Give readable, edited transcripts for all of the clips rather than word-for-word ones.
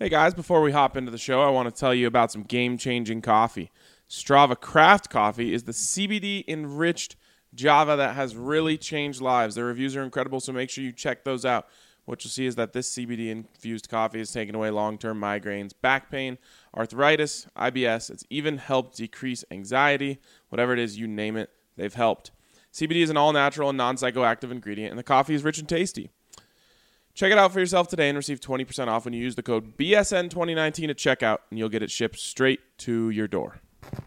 Hey guys, before we hop into the show, I want to tell you about some game-changing coffee. Strava Craft Coffee is the CBD-enriched Java that has really changed lives. Their reviews are incredible, so make sure you check those out. What you'll see is that this CBD-infused coffee has taken away long-term migraines, back pain, arthritis, IBS. It's even helped decrease anxiety. Whatever it is, you name it, they've helped. CBD is an all-natural and non-psychoactive ingredient, and the coffee is rich and tasty. Check it out for yourself today and receive 20% off when you use the code BSN2019 at checkout, and you'll get it shipped straight to your door.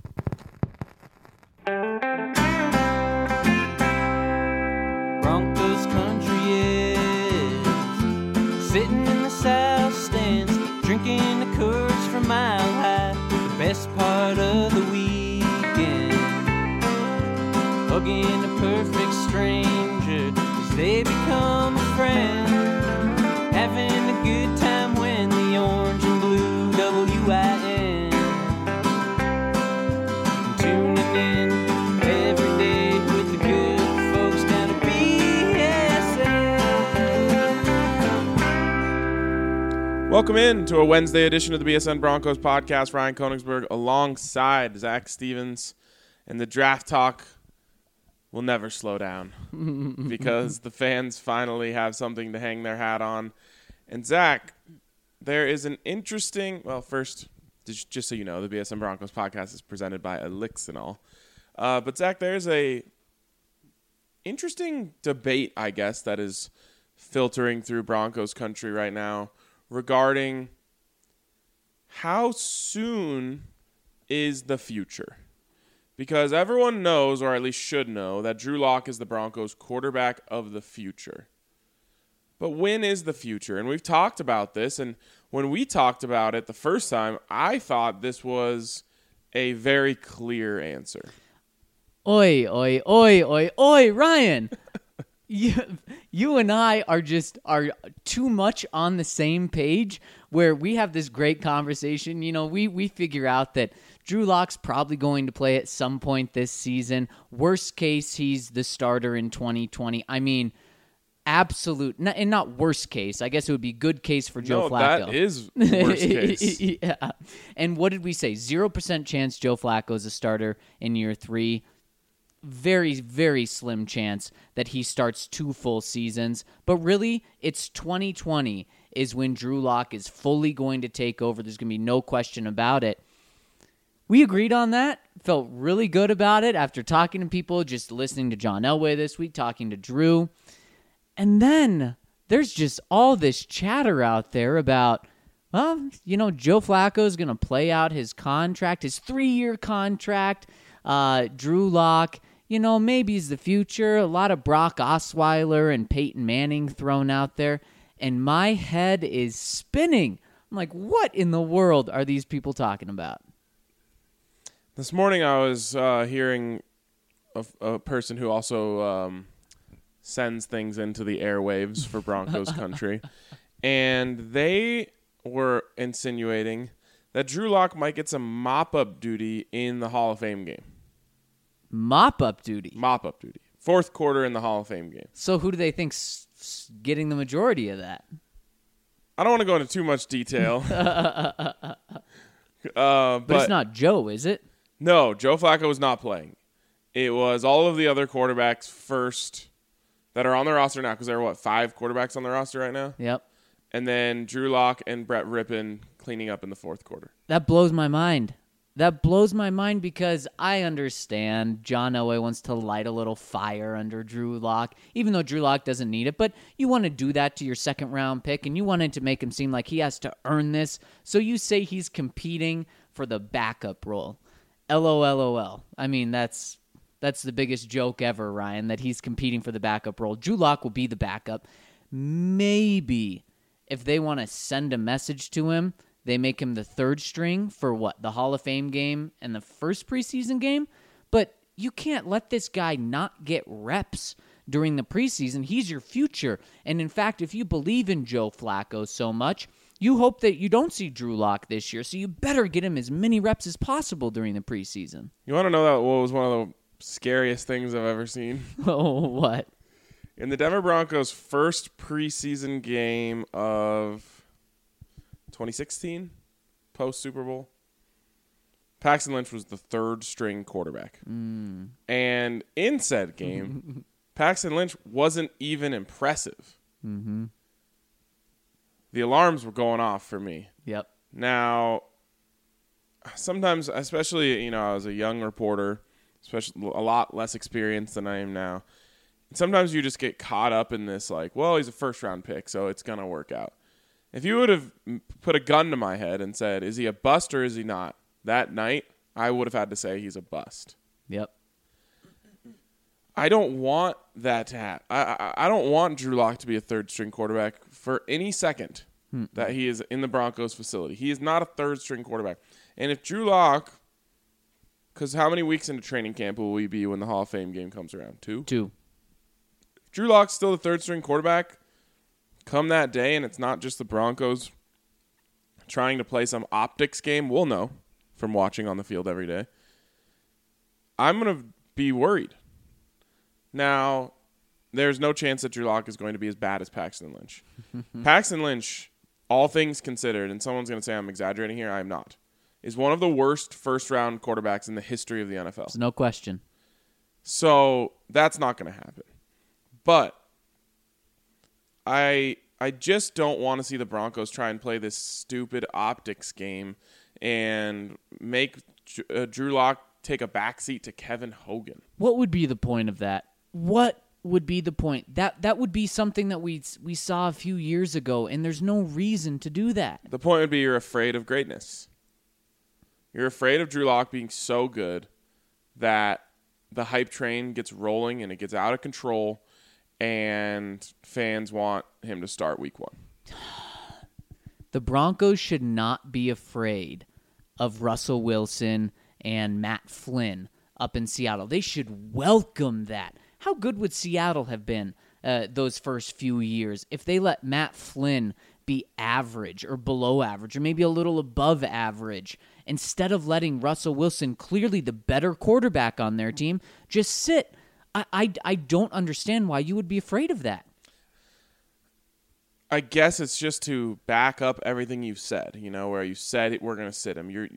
Broncos country is sitting in the south stands, drinking the Coors from Mile High. The best part of the weekend, hugging a perfect stranger as they become a friend. Having a good time when the orange and blue WIN. Tuning in every day with the good folks down at BSN. Welcome in to a Wednesday edition of the BSN Broncos podcast. Ryan Koenigsberg alongside Zach Stevens, and the draft talk will never slow down because the fans finally have something to hang their hat on. And Zach, there is an interesting, well, first, just so you know, the BSN Broncos podcast is presented by Elixinol. But Zach, there's a interesting debate, I guess, that is filtering through Broncos country right now regarding how soon is the future. Because everyone knows, or at least should know, that Drew Lock is the Broncos' quarterback of the future. But when is the future? And we've talked about this, and when we talked about it the first time, I thought this was a very clear answer. Oi, oi, oi, oi, oi, Ryan. You and I are too much on the same page where we have this great conversation. You know, we figure out that Drew Lock's probably going to play at some point this season. Worst case, he's the starter in 2020. I mean, absolute, and not worst case. I guess it would be good case for Joe Flacco. That is worst case. Yeah. And what did we say? 0% chance Joe Flacco is a starter in year 3. Very, very slim chance that he starts 2 full seasons. But really, it's 2020 is when Drew Lock is fully going to take over. There's going to be no question about it. We agreed on that. Felt really good about it after talking to people, just listening to John Elway this week, talking to Drew. And then there's just all this chatter out there about, well, you know, Joe Flacco is going to play out his contract, his 3-year contract. Drew Lock, you know, maybe he's the future. A lot of Brock Osweiler and Peyton Manning thrown out there. And my head is spinning. I'm like, what in the world are these people talking about? This morning I was hearing a person who also sends things into the airwaves for Broncos country, and they were insinuating that Drew Lock might get some mop-up duty in the Hall of Fame game. Mop-up duty? Mop-up duty. 4th quarter in the Hall of Fame game. So who do they think's getting the majority of that? I don't want to go into too much detail. But it's not Joe, is it? No, Joe Flacco was not playing. It was all of the other quarterbacks first that are on the roster now, because there are, 5 quarterbacks on the roster right now? Yep. And then Drew Lock and Brett Rippon cleaning up in the 4th quarter. That blows my mind. That blows my mind because I understand John Elway wants to light a little fire under Drew Lock, even though Drew Lock doesn't need it. But you want to do that to your 2nd-round pick, and you wanted to make him seem like he has to earn this. So you say he's competing for the backup role. LOL. I mean, that's the biggest joke ever, Ryan, that he's competing for the backup role. Drew Lock will be the backup. Maybe if they want to send a message to him, they make him the 3rd string for the Hall of Fame game and the first preseason game. But you can't let this guy not get reps during the preseason. He's your future. And in fact, if you believe in Joe Flacco so much, you hope that you don't see Drew Lock this year. So you better get him as many reps as possible during the preseason. You want to know what was one of the scariest things I've ever seen? Oh, what? In the Denver Broncos' first preseason game of 2016, post Super Bowl. Paxton Lynch was the third string quarterback. And in said game, Paxton Lynch wasn't even impressive. Mm-hmm. The alarms were going off for me. Yep. Now, sometimes, especially, I was a young reporter, especially a lot less experienced than I am now. Sometimes you just get caught up in this, like, well, he's a first-round pick, so it's going to work out. If you would have put a gun to my head and said, is he a bust or is he not? That night, I would have had to say he's a bust. Yep. I don't want that to happen. I don't want Drew Lock to be a third-string quarterback for any second that he is in the Broncos facility. He is not a third-string quarterback. And if Drew Lock, because how many weeks into training camp will we be when the Hall of Fame game comes around? 2? 2. If Drew Lock's still the third-string quarterback come that day, and it's not just the Broncos trying to play some optics game, we'll know from watching on the field every day. I'm going to be worried. Now, there's no chance that Drew Lock is going to be as bad as Paxton Lynch. Paxton Lynch, all things considered, and someone's going to say I'm exaggerating here, I am not, is one of the worst first-round quarterbacks in the history of the NFL. There's no question. So that's not going to happen. But I just don't want to see the Broncos try and play this stupid optics game and make Drew Lock take a backseat to Kevin Hogan. What would be the point of that? What would be the point? That would be something that we saw a few years ago, and there's no reason to do that. The point would be you're afraid of greatness. You're afraid of Drew Lock being so good that the hype train gets rolling and it gets out of control, and fans want him to start week 1. The Broncos should not be afraid of Russell Wilson and Matt Flynn up in Seattle. They should welcome that. How good would Seattle have been those first few years if they let Matt Flynn be average or below average or maybe a little above average instead of letting Russell Wilson, clearly the better quarterback on their team, just sit? I don't understand why you would be afraid of that. I guess it's just to back up everything you've said, where you said we're going to sit him.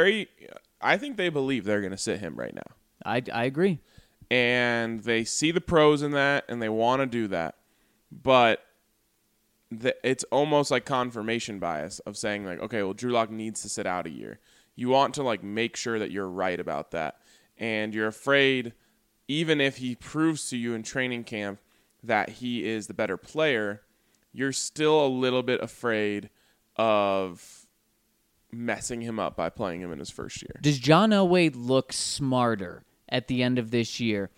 I think they believe they're going to sit him right now. I agree. And they see the pros in that, and they want to do that. But it's almost like confirmation bias of saying, like, okay, well, Drew Lock needs to sit out a year. You want to, like, make sure that you're right about that. And you're afraid, even if he proves to you in training camp that he is the better player, you're still a little bit afraid of messing him up by playing him in his first year. Does John Elway look smarter at the end of this year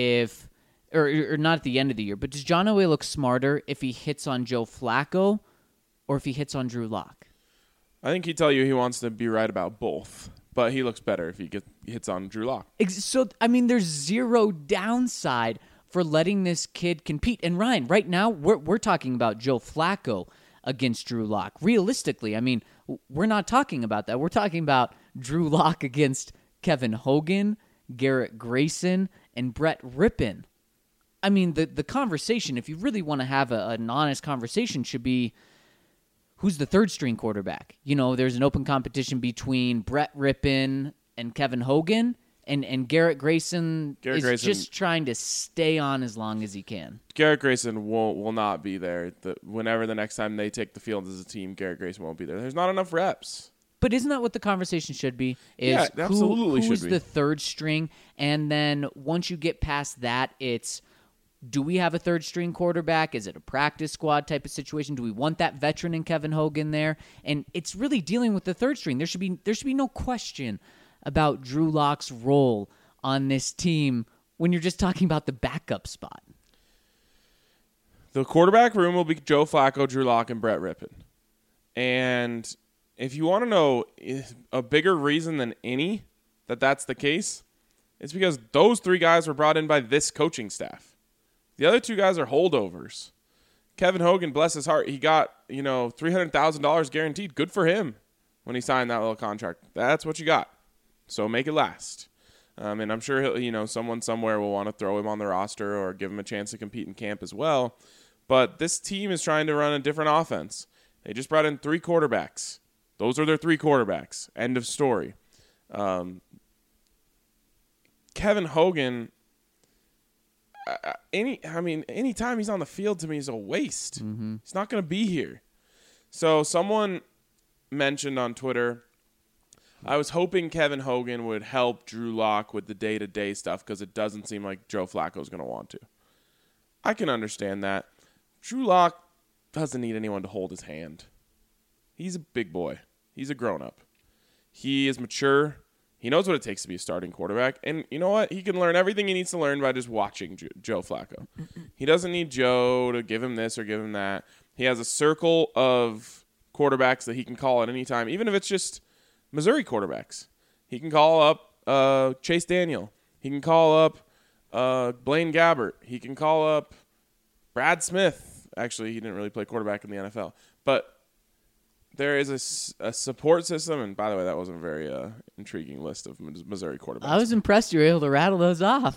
or not at the end of the year, but does John Elway look smarter if he hits on Joe Flacco or if he hits on Drew Lock? I think he'd tell you he wants to be right about both, but he looks better if he hits on Drew Lock. So, I mean, there's zero downside for letting this kid compete. And Ryan, right now, we're talking about Joe Flacco against Drew Lock. Realistically, I mean, we're not talking about that. We're talking about Drew Lock against Kevin Hogan, Garrett Grayson, and Brett Rippon. I mean, the conversation, if you really want to have an honest conversation, should be who's the third-string quarterback. There's an open competition between Brett Rippon and Kevin Hogan, and Garrett Grayson is just trying to stay on as long as he can. Garrett Grayson will not be there. Whenever the next time they take the field as a team, Garrett Grayson won't be there. There's not enough reps. But isn't that what the conversation should be? Yeah, absolutely should be. Who's the third string? And then once you get past that, it's, do we have a third-string quarterback? Is it a practice squad type of situation? Do we want that veteran in Kevin Hogan there? And it's really dealing with the third string. There should be no question about Drew Lock's role on this team when you're just talking about the backup spot. The quarterback room will be Joe Flacco, Drew Lock, and Brett Rippon. And if you want to know a bigger reason than any that that's the case, it's because those 3 guys were brought in by this coaching staff. The other 2 guys are holdovers. Kevin Hogan, bless his heart, he got, $300,000 guaranteed. Good for him when he signed that little contract. That's what you got. So make it last. And I'm sure someone somewhere will want to throw him on the roster or give him a chance to compete in camp as well. But this team is trying to run a different offense. They just brought in 3 quarterbacks. Those are their 3 quarterbacks. End of story. Kevin Hogan, anytime he's on the field to me is a waste. Mm-hmm. He's not going to be here. So someone mentioned on Twitter, I was hoping Kevin Hogan would help Drew Lock with the day-to-day stuff because it doesn't seem like Joe Flacco's going to want to. I can understand that. Drew Lock doesn't need anyone to hold his hand. He's a big boy. He's a grown-up. He is mature. He knows what it takes to be a starting quarterback. And you know what? He can learn everything he needs to learn by just watching Joe Flacco. He doesn't need Joe to give him this or give him that. He has a circle of quarterbacks that he can call at any time, even if it's just Missouri quarterbacks. He can call up Chase Daniel. He can call up Blaine Gabbert. He can call up Brad Smith. Actually, he didn't really play quarterback in the NFL. But there is a support system, and by the way, that wasn't a very intriguing list of Missouri quarterbacks. I was impressed you were able to rattle those off.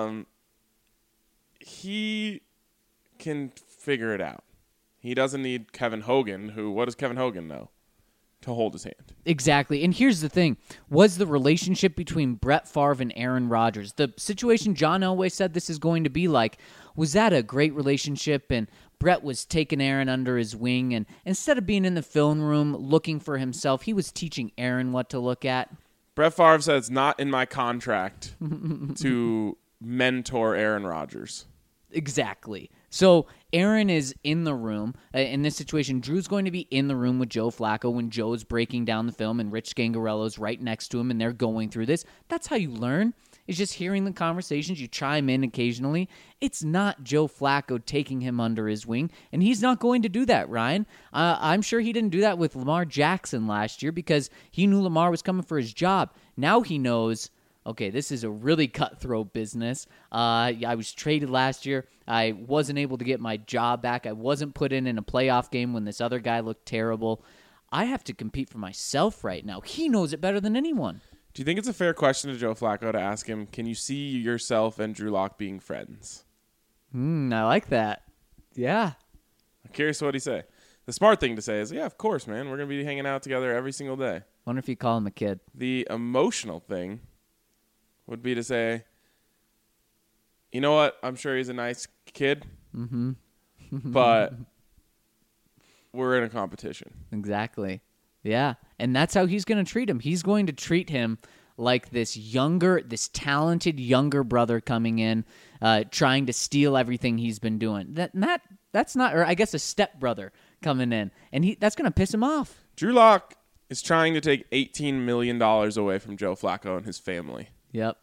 He can figure it out. He doesn't need Kevin Hogan, what does Kevin Hogan know? To hold his hand. Exactly. And here's the thing. Was the relationship between Brett Favre and Aaron Rodgers, the situation John Elway said this is going to be like, was that a great relationship? And Brett was taking Aaron under his wing, and instead of being in the film room looking for himself, he was teaching Aaron what to look at. Brett Favre said it's not in my contract to mentor Aaron Rodgers. Exactly. So Aaron is in the room. In this situation, Drew's going to be in the room with Joe Flacco when Joe's breaking down the film and Rich Scangarello's right next to him and they're going through this. That's how you learn, is just hearing the conversations. You chime in occasionally. It's not Joe Flacco taking him under his wing, and he's not going to do that, Ryan. I'm sure he didn't do that with Lamar Jackson last year because he knew Lamar was coming for his job. Now he knows, okay, this is a really cutthroat business. I was traded last year. I wasn't able to get my job back. I wasn't put in a playoff game when this other guy looked terrible. I have to compete for myself right now. He knows it better than anyone. Do you think it's a fair question to Joe Flacco to ask him, can you see yourself and Drew Lock being friends? I like that. Yeah. I'm curious what he say. The smart thing to say is, yeah, of course, man. We're going to be hanging out together every single day. Wonder if you call him a kid. The emotional thing would be to say, you know what? I'm sure he's a nice kid, but we're in a competition. Exactly. Yeah, and that's how he's going to treat him. He's going to treat him like this talented younger brother coming in, trying to steal everything he's been doing. That's not, or I guess a stepbrother coming in, and that's going to piss him off. Drew Lock is trying to take $18 million away from Joe Flacco and his family. Yep.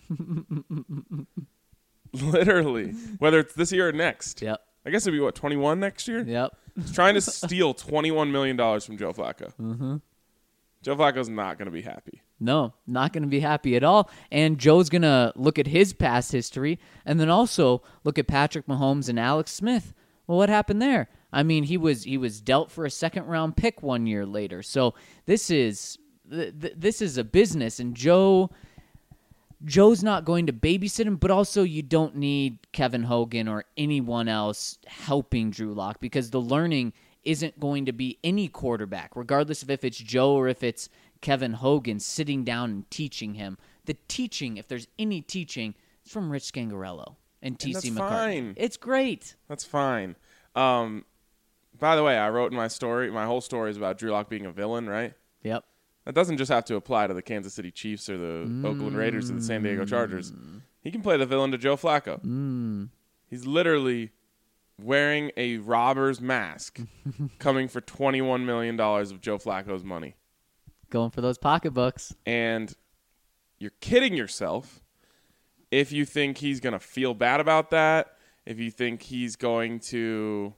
Literally, whether it's this year or next. Yep. I guess it'd be, 21 next year? Yep. He's trying to steal $21 million from Joe Flacco. Mm-hmm. Joe Flacco's not going to be happy. No, not going to be happy at all. And Joe's going to look at his past history and then also look at Patrick Mahomes and Alex Smith. Well, what happened there? I mean, he was dealt for a second-round pick 1 year later. So this is a business, and Joe's not going to babysit him, but also you don't need Kevin Hogan or anyone else helping Drew Lock because the learning isn't going to be any quarterback, regardless of if it's Joe or if it's Kevin Hogan sitting down and teaching him. The teaching, if there's any teaching, it's from Rich Scangarello and T.C. McCartney. Fine. It's great. That's fine. By the way, I wrote in my story, my whole story is about Drew Lock being a villain, right? Yep. That doesn't just have to apply to the Kansas City Chiefs or the Oakland Raiders or the San Diego Chargers. He can play the villain to Joe Flacco. He's literally wearing a robber's mask coming for $21 million of Joe Flacco's money. Going for those pocketbooks. And you're kidding yourself if you think he's going to feel bad about that, if you think he's going to,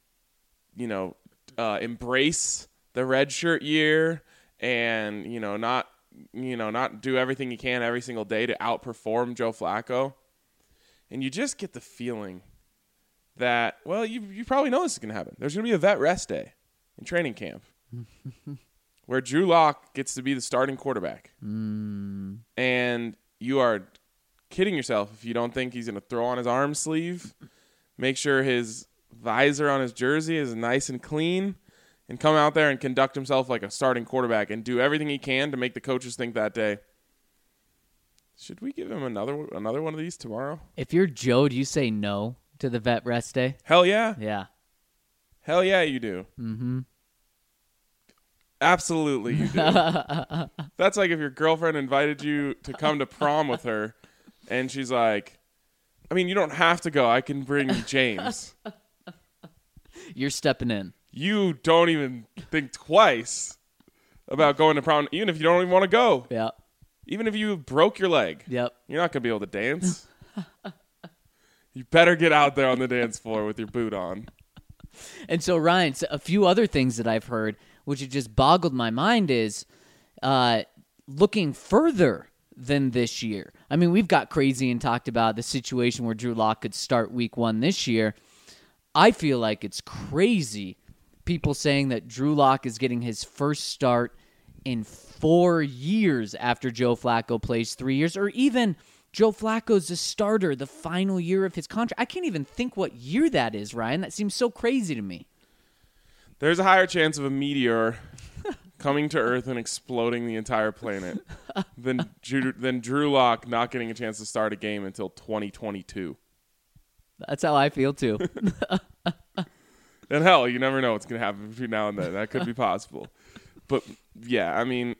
embrace the redshirt year and, not do everything he can every single day to outperform Joe Flacco. And you just get the feeling that, well, you probably know this is going to happen. There's going to be a vet rest day in training camp where Drew Lock gets to be the starting quarterback. And you are kidding yourself if you don't think he's going to throw on his arm sleeve, make sure his visor on his jersey is nice and clean. and come out there and conduct himself like a starting quarterback and do everything he can to make the coaches think that day, should we give him another one of these tomorrow? If you're Joe, do you say no to the vet rest day? Hell yeah. Yeah. Hell yeah, you do. Mm-hmm. Absolutely you do. That's like if your girlfriend invited you to come to prom with her, and she's like, I mean, you don't have to go. I can bring James. You're stepping in. You don't even think twice about going to prom, even if you don't even want to go. Yeah. Even if you broke your leg. Yep. You're not going to be able to dance. You better get out there on the dance floor with your boot on. And so, Ryan, a few other things that I've heard, which have just boggled my mind, is looking further than this year. I mean, we've got crazy and talked about the situation where Drew Lock could start week 1 this year. I feel like it's crazy. People saying that Drew Lock is getting his first start in 4 years after Joe Flacco plays 3 years, or even Joe Flacco's a starter the final year of his contract. I can't even think what year that is, Ryan. That seems so crazy to me. There's a higher chance of a meteor coming to Earth and exploding the entire planet than Drew Lock not getting a chance to start a game until 2022. That's how I feel, too. And hell, you never know what's going to happen between now and then. That could be possible. But, yeah, I mean,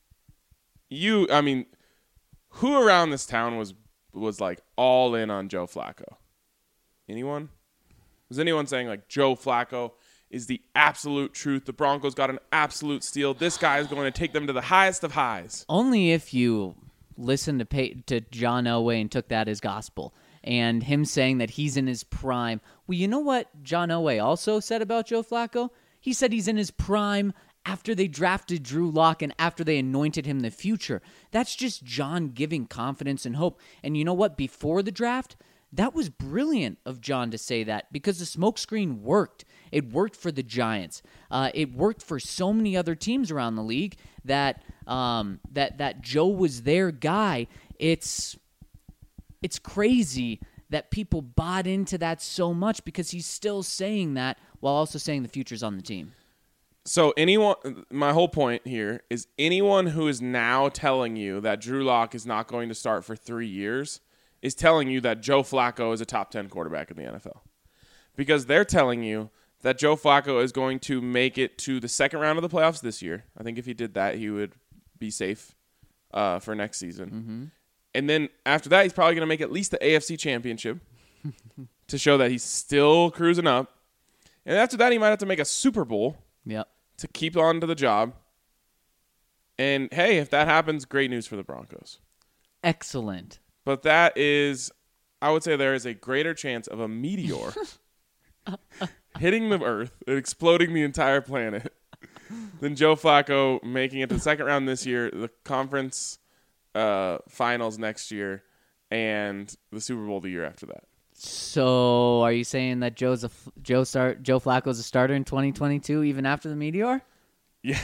who around this town was like all in on Joe Flacco? Anyone? Was anyone saying like Joe Flacco is the absolute truth? The Broncos got an absolute steal. This guy is going to take them to the highest of highs. Only if you listened to John Elway and took that as gospel. And him saying that he's in his prime. Well, you know what John Elway also said about Joe Flacco? He said he's in his prime after they drafted Drew Lock and after they anointed him the future. That's just John giving confidence and hope. And you know what? Before the draft, that was brilliant of John to say that because the smokescreen worked. It worked for the Giants. It worked for so many other teams around the league that Joe was their guy. It's crazy that people bought into that so much because he's still saying that while also saying the future's on the team. So my whole point here is anyone who is now telling you that Drew Lock is not going to start for 3 years is telling you that Joe Flacco is a top 10 quarterback in the NFL. Because they're telling you that Joe Flacco is going to make it to the second round of the playoffs this year. I think if he did that, he would be safe for next season. Mm-hmm. And then after that, he's probably going to make at least the AFC Championship to show that he's still cruising up. And after that, he might have to make a Super Bowl to keep on to the job. And, hey, if that happens, great news for the Broncos. Excellent. But that is, I would say there is a greater chance of a meteor hitting the Earth and exploding the entire planet than Joe Flacco making it to the second round this year, the conference finals next year, and the Super Bowl the year after that. So, are you saying that Joe Flacco's a starter in 2022, even after the meteor? Yeah.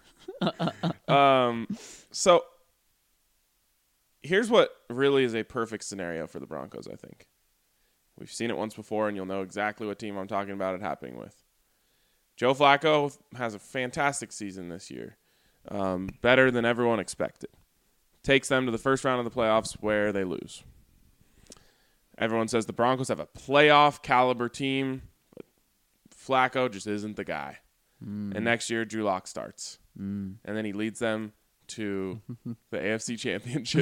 So, here's what really is a perfect scenario for the Broncos, I think. We've seen it once before, and you'll know exactly what team I'm talking about it happening with. Joe Flacco has a fantastic season this year, better than everyone expected. Takes them to the first round of the playoffs where they lose. Everyone says the Broncos have a playoff caliber team, but Flacco just isn't the guy. And next year, Drew Lock starts. And then he leads them to the AFC Championship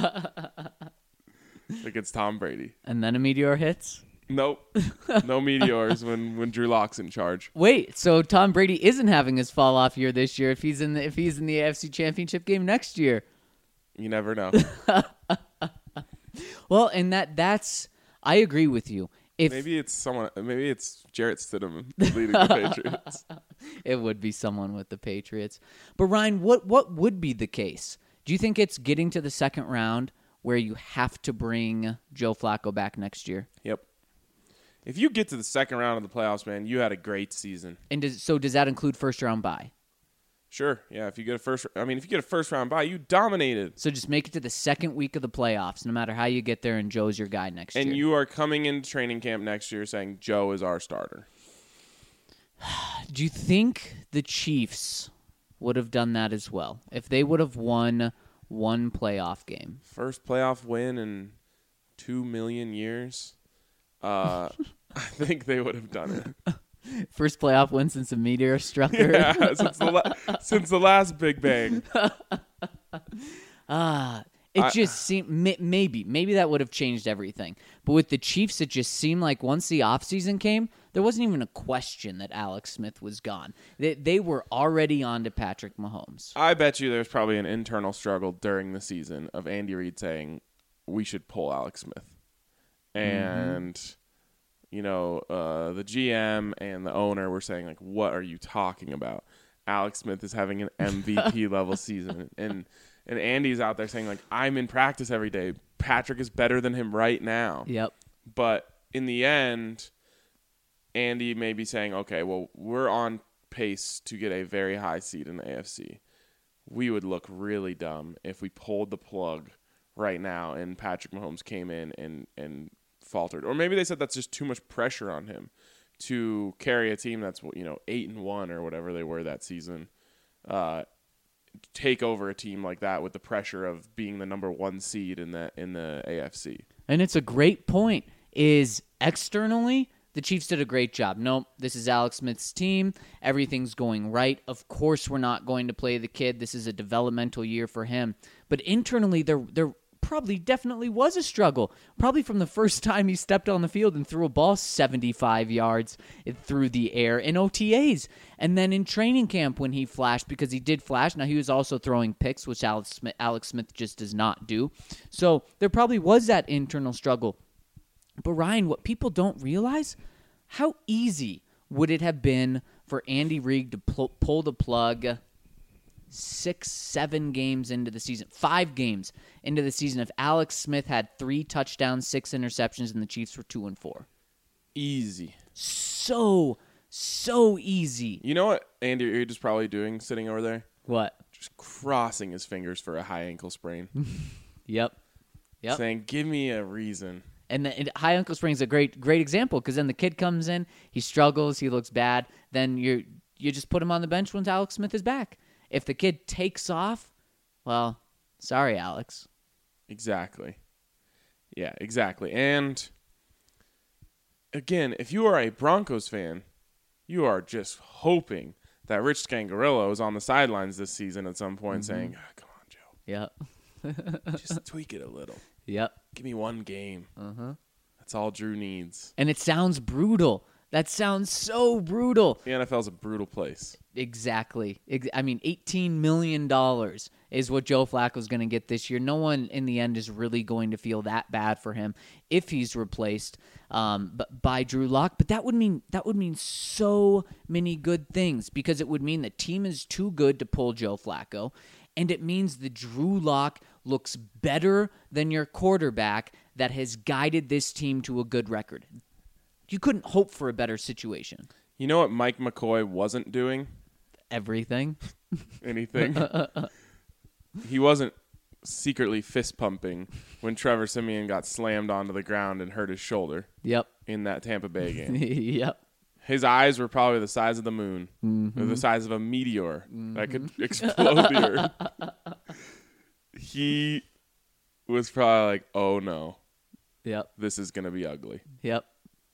against Tom Brady. And then a meteor hits? Nope. No meteors when Drew Lock's in charge. Wait, so Tom Brady isn't having his fall off year this year if he's in the AFC Championship game next year. You never know. Well, and that's I agree with you. Maybe it's Jarrett Stidham leading the Patriots. It would be someone with the Patriots. But Ryan, what would be the case? Do you think it's getting to the second round where you have to bring Joe Flacco back next year? Yep. If you get to the second round of the playoffs, man, you had a great season. And does that include first round bye? Sure. Yeah, if you get a first round bye, you dominated. So just make it to the second week of the playoffs, no matter how you get there, and Joe's your guy next year. And you are coming into training camp next year saying Joe is our starter. Do you think the Chiefs would have done that as well if they would have won one playoff game? First playoff win in 2 million years. I think they would have done it. First playoff win since a meteor struck Earth. Yeah, since the last Big Bang. It just seemed maybe that would have changed everything. But with the Chiefs, it just seemed like once the offseason came, there wasn't even a question that Alex Smith was gone. They were already on to Patrick Mahomes. I bet you there's probably an internal struggle during the season of Andy Reid saying we should pull Alex Smith. And, the GM and the owner were saying, like, what are you talking about? Alex Smith is having an MVP level season. And Andy's out there saying, like, I'm in practice every day. Patrick is better than him right now. Yep. But in the end, Andy may be saying, okay, well, we're on pace to get a very high seed in the AFC. We would look really dumb if we pulled the plug right now and Patrick Mahomes came in and faltered. Or maybe they said that's just too much pressure on him to carry a team that's 8-1 or whatever they were that season. Take over a team like that with the pressure of being the number 1 seed in the AFC. And it's a great point. Is externally, the Chiefs did a great job. Nope, this is Alex Smith's team. Everything's going right. Of course, we're not going to play the kid. This is a developmental year for him. But internally, there probably definitely was a struggle. Probably from the first time he stepped on the field and threw a ball 75 yards through the air in OTAs. And then in training camp when he flashed, because he did flash. Now, he was also throwing picks, which Alex Smith just does not do. So there probably was that internal struggle. But Ryan, what people don't realize, how easy would it have been for Andy Reid to pull the plug 6-7 games into the season, 5 games into the season if Alex Smith had 3 touchdowns, 6 interceptions, and the Chiefs were 2-4? Easy. So easy. You know what Andy Reid is probably doing sitting over there? What? Just crossing his fingers for a high ankle sprain. Yep. Saying, give me a reason. And the high ankle sprain is a great example because then the kid comes in, he struggles, he looks bad. Then you just put him on the bench once Alex Smith is back. If the kid takes off, well, sorry, Alex. Exactly. Yeah, exactly. And again, if you are a Broncos fan, you are just hoping that Rich Scangarello is on the sidelines this season at some point saying, come on, Joe. Yep. Just tweak it a little. Yep. Give me one game. That's all Drew needs. And it sounds brutal. That sounds so brutal. The NFL's a brutal place. Exactly. I mean, $18 million is what Joe Flacco's going to get this year. No one in the end is really going to feel that bad for him if he's replaced by Drew Lock. But that would mean so many good things because it would mean the team is too good to pull Joe Flacco. And it means the Drew Lock looks better than your quarterback that has guided this team to a good record. You couldn't hope for a better situation. You know what Mike McCoy wasn't doing? Everything. Anything. He wasn't secretly fist pumping when Trevor Siemian got slammed onto the ground and hurt his shoulder. Yep. In that Tampa Bay game. Yep. His eyes were probably the size of the moon, or the size of a meteor that could explode the earth. He was probably like, oh no. Yep. This is going to be ugly. Yep.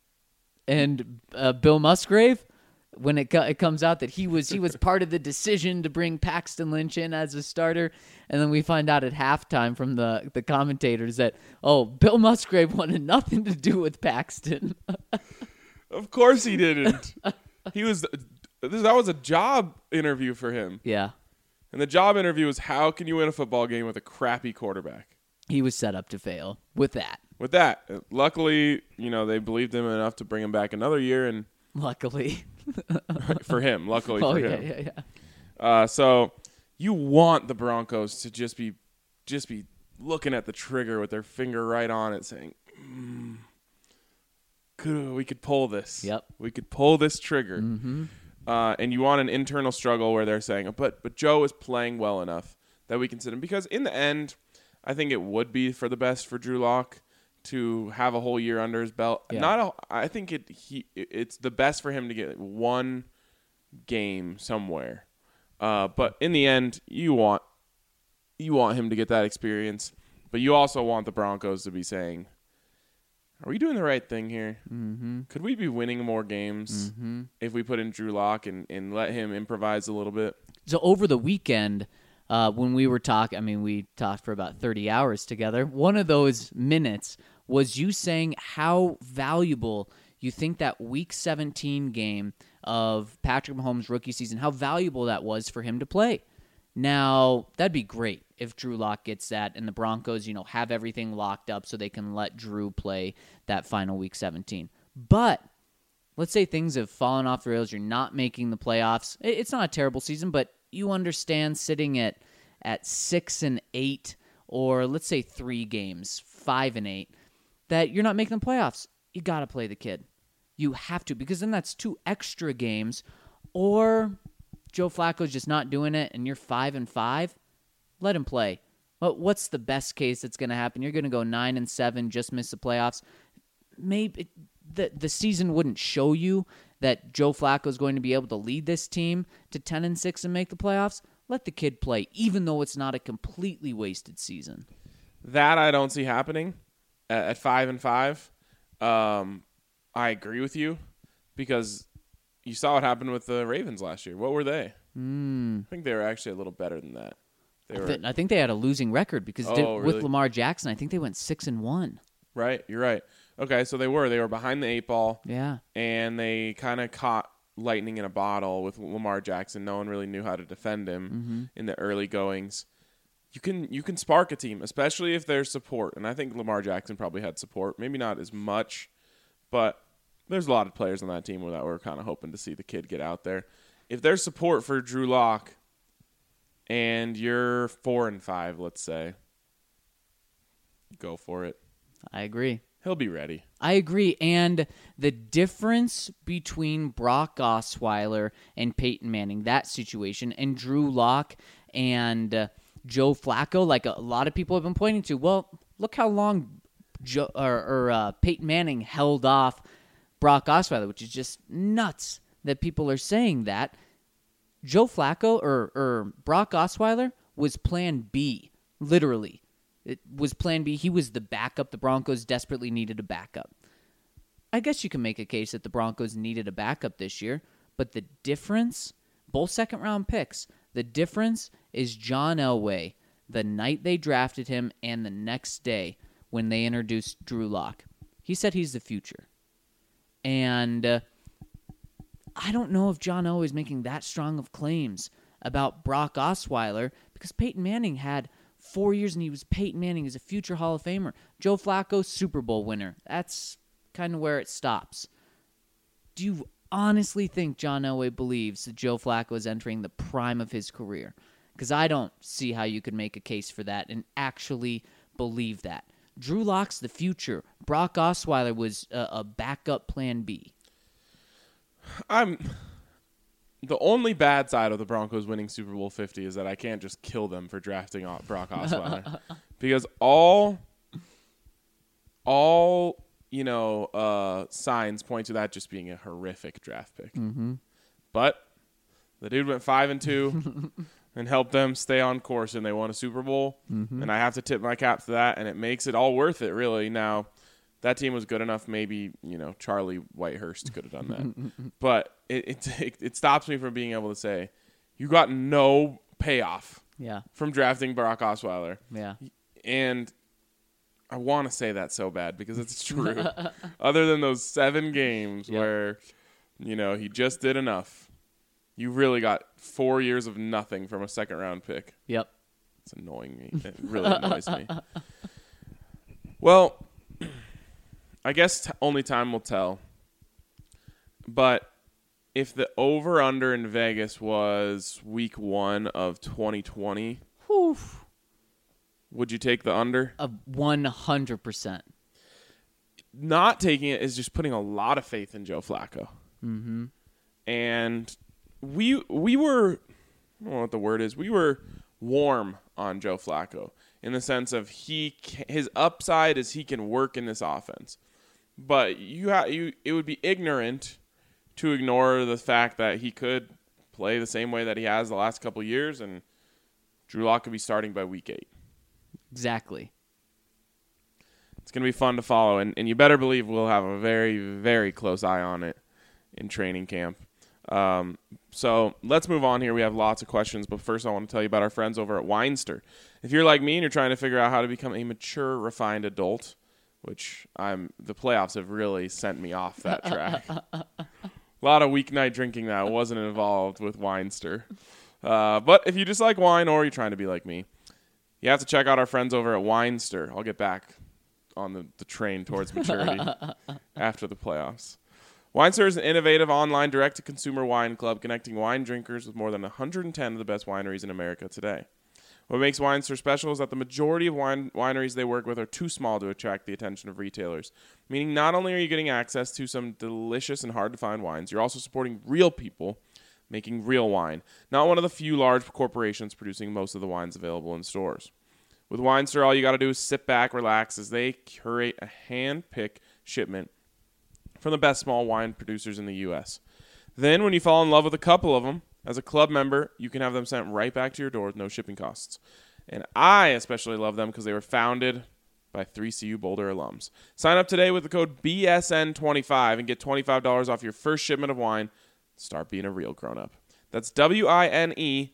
And Bill Musgrave, when it comes out that he was part of the decision to bring Paxton Lynch in as a starter, and then we find out at halftime from the commentators that, Bill Musgrave wanted nothing to do with Paxton. Of course he didn't. That was a job interview for him. Yeah. And the job interview was, how can you win a football game with a crappy quarterback? He was set up to fail with that. Luckily, they believed him enough to bring him back another year, and luckily for him, for him. Yeah. So you want the Broncos to just be looking at the trigger with their finger right on it, saying, we could pull this. Yep. We could pull this trigger. Mm-hmm. And you want an internal struggle where they're saying, but Joe is playing well enough that we can sit him. Because in the end, I think it would be for the best for Drew Lock to have a whole year under his belt. Yeah. I think it's the best for him to get one game somewhere. But in the end, you want him to get that experience, but you also want the Broncos to be saying, are we doing the right thing here? Mm-hmm. Could we be winning more games if we put in Drew Lock and let him improvise a little bit? So over the weekend, when we were talking, we talked for about 30 hours together. One of those minutes was you saying how valuable you think that Week 17 game of Patrick Mahomes' rookie season, how valuable that was for him to play. Now, that'd be great if Drew Lock gets that and the Broncos, have everything locked up so they can let Drew play that final Week 17. But let's say things have fallen off the rails. You're not making the playoffs. It's not a terrible season, but you understand sitting at 6-8, or let's say 3 games, 5-8, that you're not making the playoffs. You got to play the kid. You have to, because then that's 2 extra games. Or Joe Flacco's just not doing it and you're 5-5, let him play. But what's the best case that's going to happen? You're going to go 9-7, just miss the playoffs. Maybe the season wouldn't show you that Joe Flacco's going to be able to lead this team to 10-6 and make the playoffs. Let the kid play, even though it's not a completely wasted season. That I don't see happening at 5-5. I agree with you, because you saw what happened with the Ravens last year. What were they? I think they were actually a little better than that. I think they had a losing record because really? with Lamar Jackson, I think they went 6-1. Right, you're right. Okay, so they were behind the 8 ball. Yeah, and they kind of caught lightning in a bottle with Lamar Jackson. No one really knew how to defend him in the early goings. You can spark a team, especially if there's support, and I think Lamar Jackson probably had support. Maybe not as much, but there's a lot of players on that team that were kind of hoping to see the kid get out there. If there's support for Drew Lock and you're 4-5, let's say, go for it. I agree. He'll be ready. I agree. And the difference between Brock Osweiler and Peyton Manning, that situation, and Drew Lock and Joe Flacco, like a lot of people have been pointing to, well, look how long Peyton Manning held off Brock Osweiler, which is just nuts that people are saying that. Joe Flacco or Brock Osweiler was plan B, literally. It was plan B. He was the backup. The Broncos desperately needed a backup. I guess you can make a case that the Broncos needed a backup this year, but the difference, both second-round picks, the difference is John Elway, the night they drafted him and the next day when they introduced Drew Lock. He said he's the future. And I don't know if John Elway is making that strong of claims about Brock Osweiler, because Peyton Manning had 4 years and he was Peyton Manning as a future Hall of Famer. Joe Flacco, Super Bowl winner. That's kind of where it stops. Do you honestly think John Elway believes that Joe Flacco is entering the prime of his career? Because I don't see how you could make a case for that and actually believe that. Drew Lock's the future. Brock Osweiler was a backup plan B. The only bad side of the Broncos winning Super Bowl 50 is that I can't just kill them for drafting Brock Osweiler. Because all signs point to that just being a horrific draft pick. Mm-hmm. But the dude went 5-2 and helped them stay on course, and they won a Super Bowl. Mm-hmm. And I have to tip my cap to that, and it makes it all worth it, really. Now, that team was good enough. Maybe, Charlie Whitehurst could have done that. But it stops me from being able to say, you got no payoff from drafting Brock Osweiler. Yeah. And I want to say that so bad because it's true. Other than those 7 games where, he just did enough, you really got 4 years of nothing from a second-round pick. Yep. It's annoying me. It really annoys me. Well, I guess only time will tell. But if the over-under in Vegas was week 1 of 2020, would you take the under? 100%. Not taking it is just putting a lot of faith in Joe Flacco. Mm-hmm. And we were, I don't know what the word is, we were warm on Joe Flacco in the sense of his upside is he can work in this offense. But it would be ignorant to ignore the fact that he could play the same way that he has the last couple years, and Drew Lock could be starting by week 8. Exactly. It's going to be fun to follow, and you better believe we'll have a very, very close eye on it in training camp. So let's move on here. We have lots of questions, but first I want to tell you about our friends over at Weinster. If you're like me and you're trying to figure out how to become a mature, refined adult, which the playoffs have really sent me off that track. A lot of weeknight drinking that wasn't involved with Weinster. But if you just like wine or you're trying to be like me, you have to check out our friends over at Weinster. I'll get back on the train towards maturity after the playoffs. Weinster is an innovative online direct-to-consumer wine club connecting wine drinkers with more than 110 of the best wineries in America today. What makes Weinster special is that the majority of wineries they work with are too small to attract the attention of retailers, meaning not only are you getting access to some delicious and hard-to-find wines, you're also supporting real people making real wine, not one of the few large corporations producing most of the wines available in stores. With Weinster, all you got to do is sit back, relax, as they curate a hand-picked shipment from the best small wine producers in the U.S. Then, when you fall in love with a couple of them, as a club member, you can have them sent right back to your door with no shipping costs. And I especially love them because they were founded by 3CU Boulder alums. Sign up today with the code BSN25 and get $25 off your first shipment of wine. Start being a real grown-up. That's WINESTYR,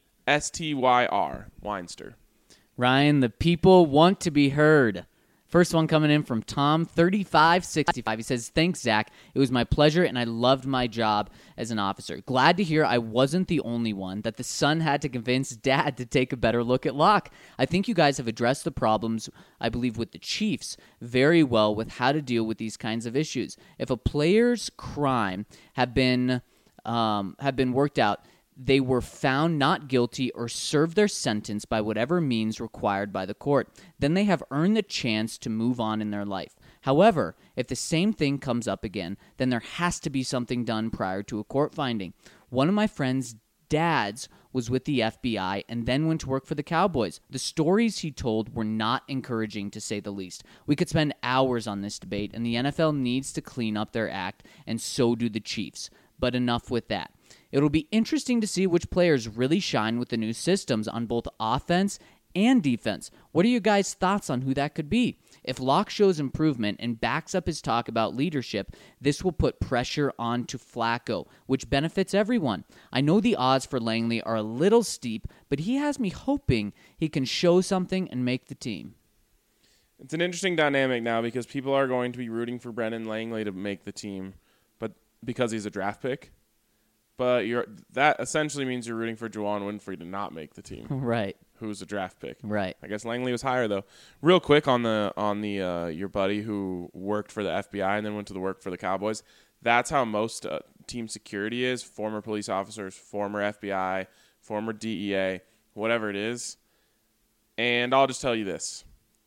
Weinster. Ryan, the people want to be heard. First one coming in from Tom3565. He says, "Thanks, Zach. It was my pleasure, and I loved my job as an officer. Glad to hear I wasn't the only one, that the son had to convince dad to take a better look at Locke. I think you guys have addressed the problems, I believe, with the Chiefs very well with how to deal with these kinds of issues. If a player's crime have been worked out, they were found not guilty or served their sentence by whatever means required by the court. Then they have earned the chance to move on in their life. However, if the same thing comes up again, then there has to be something done prior to a court finding. One of my friend's dads was with the FBI and then went to work for the Cowboys. The stories he told were not encouraging, to say the least. We could spend hours on this debate, and the NFL needs to clean up their act, and so do the Chiefs. But enough with that. It'll be interesting to see which players really shine with the new systems on both offense and defense. What are your guys' thoughts on who that could be? If Locke shows improvement and backs up his talk about leadership, this will put pressure onto Flacco, which benefits everyone. I know the odds for Langley are a little steep, but he has me hoping he can show something and make the team." It's an interesting dynamic now because people are going to be rooting for Brendan Langley to make the team, but because he's a draft pick. But that essentially means you're rooting for Juwan Winfrey to not make the team. Right. Who's a draft pick. Right. I guess Langley was higher though. Real quick on the your buddy who worked for the FBI and then went to work for the Cowboys. That's how most team security is. Former police officers, former FBI, former DEA, whatever it is. And I'll just tell you this.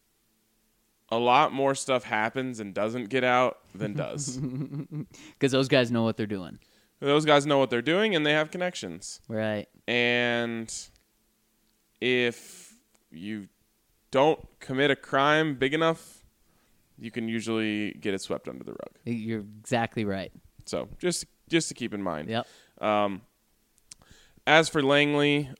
A lot more stuff happens and doesn't get out than does. Because those guys know what they're doing. Those guys know what they're doing, and they have connections. Right. And if you don't commit a crime big enough, you can usually get it swept under the rug. You're exactly right. So just to keep in mind. Yep. As for Langley,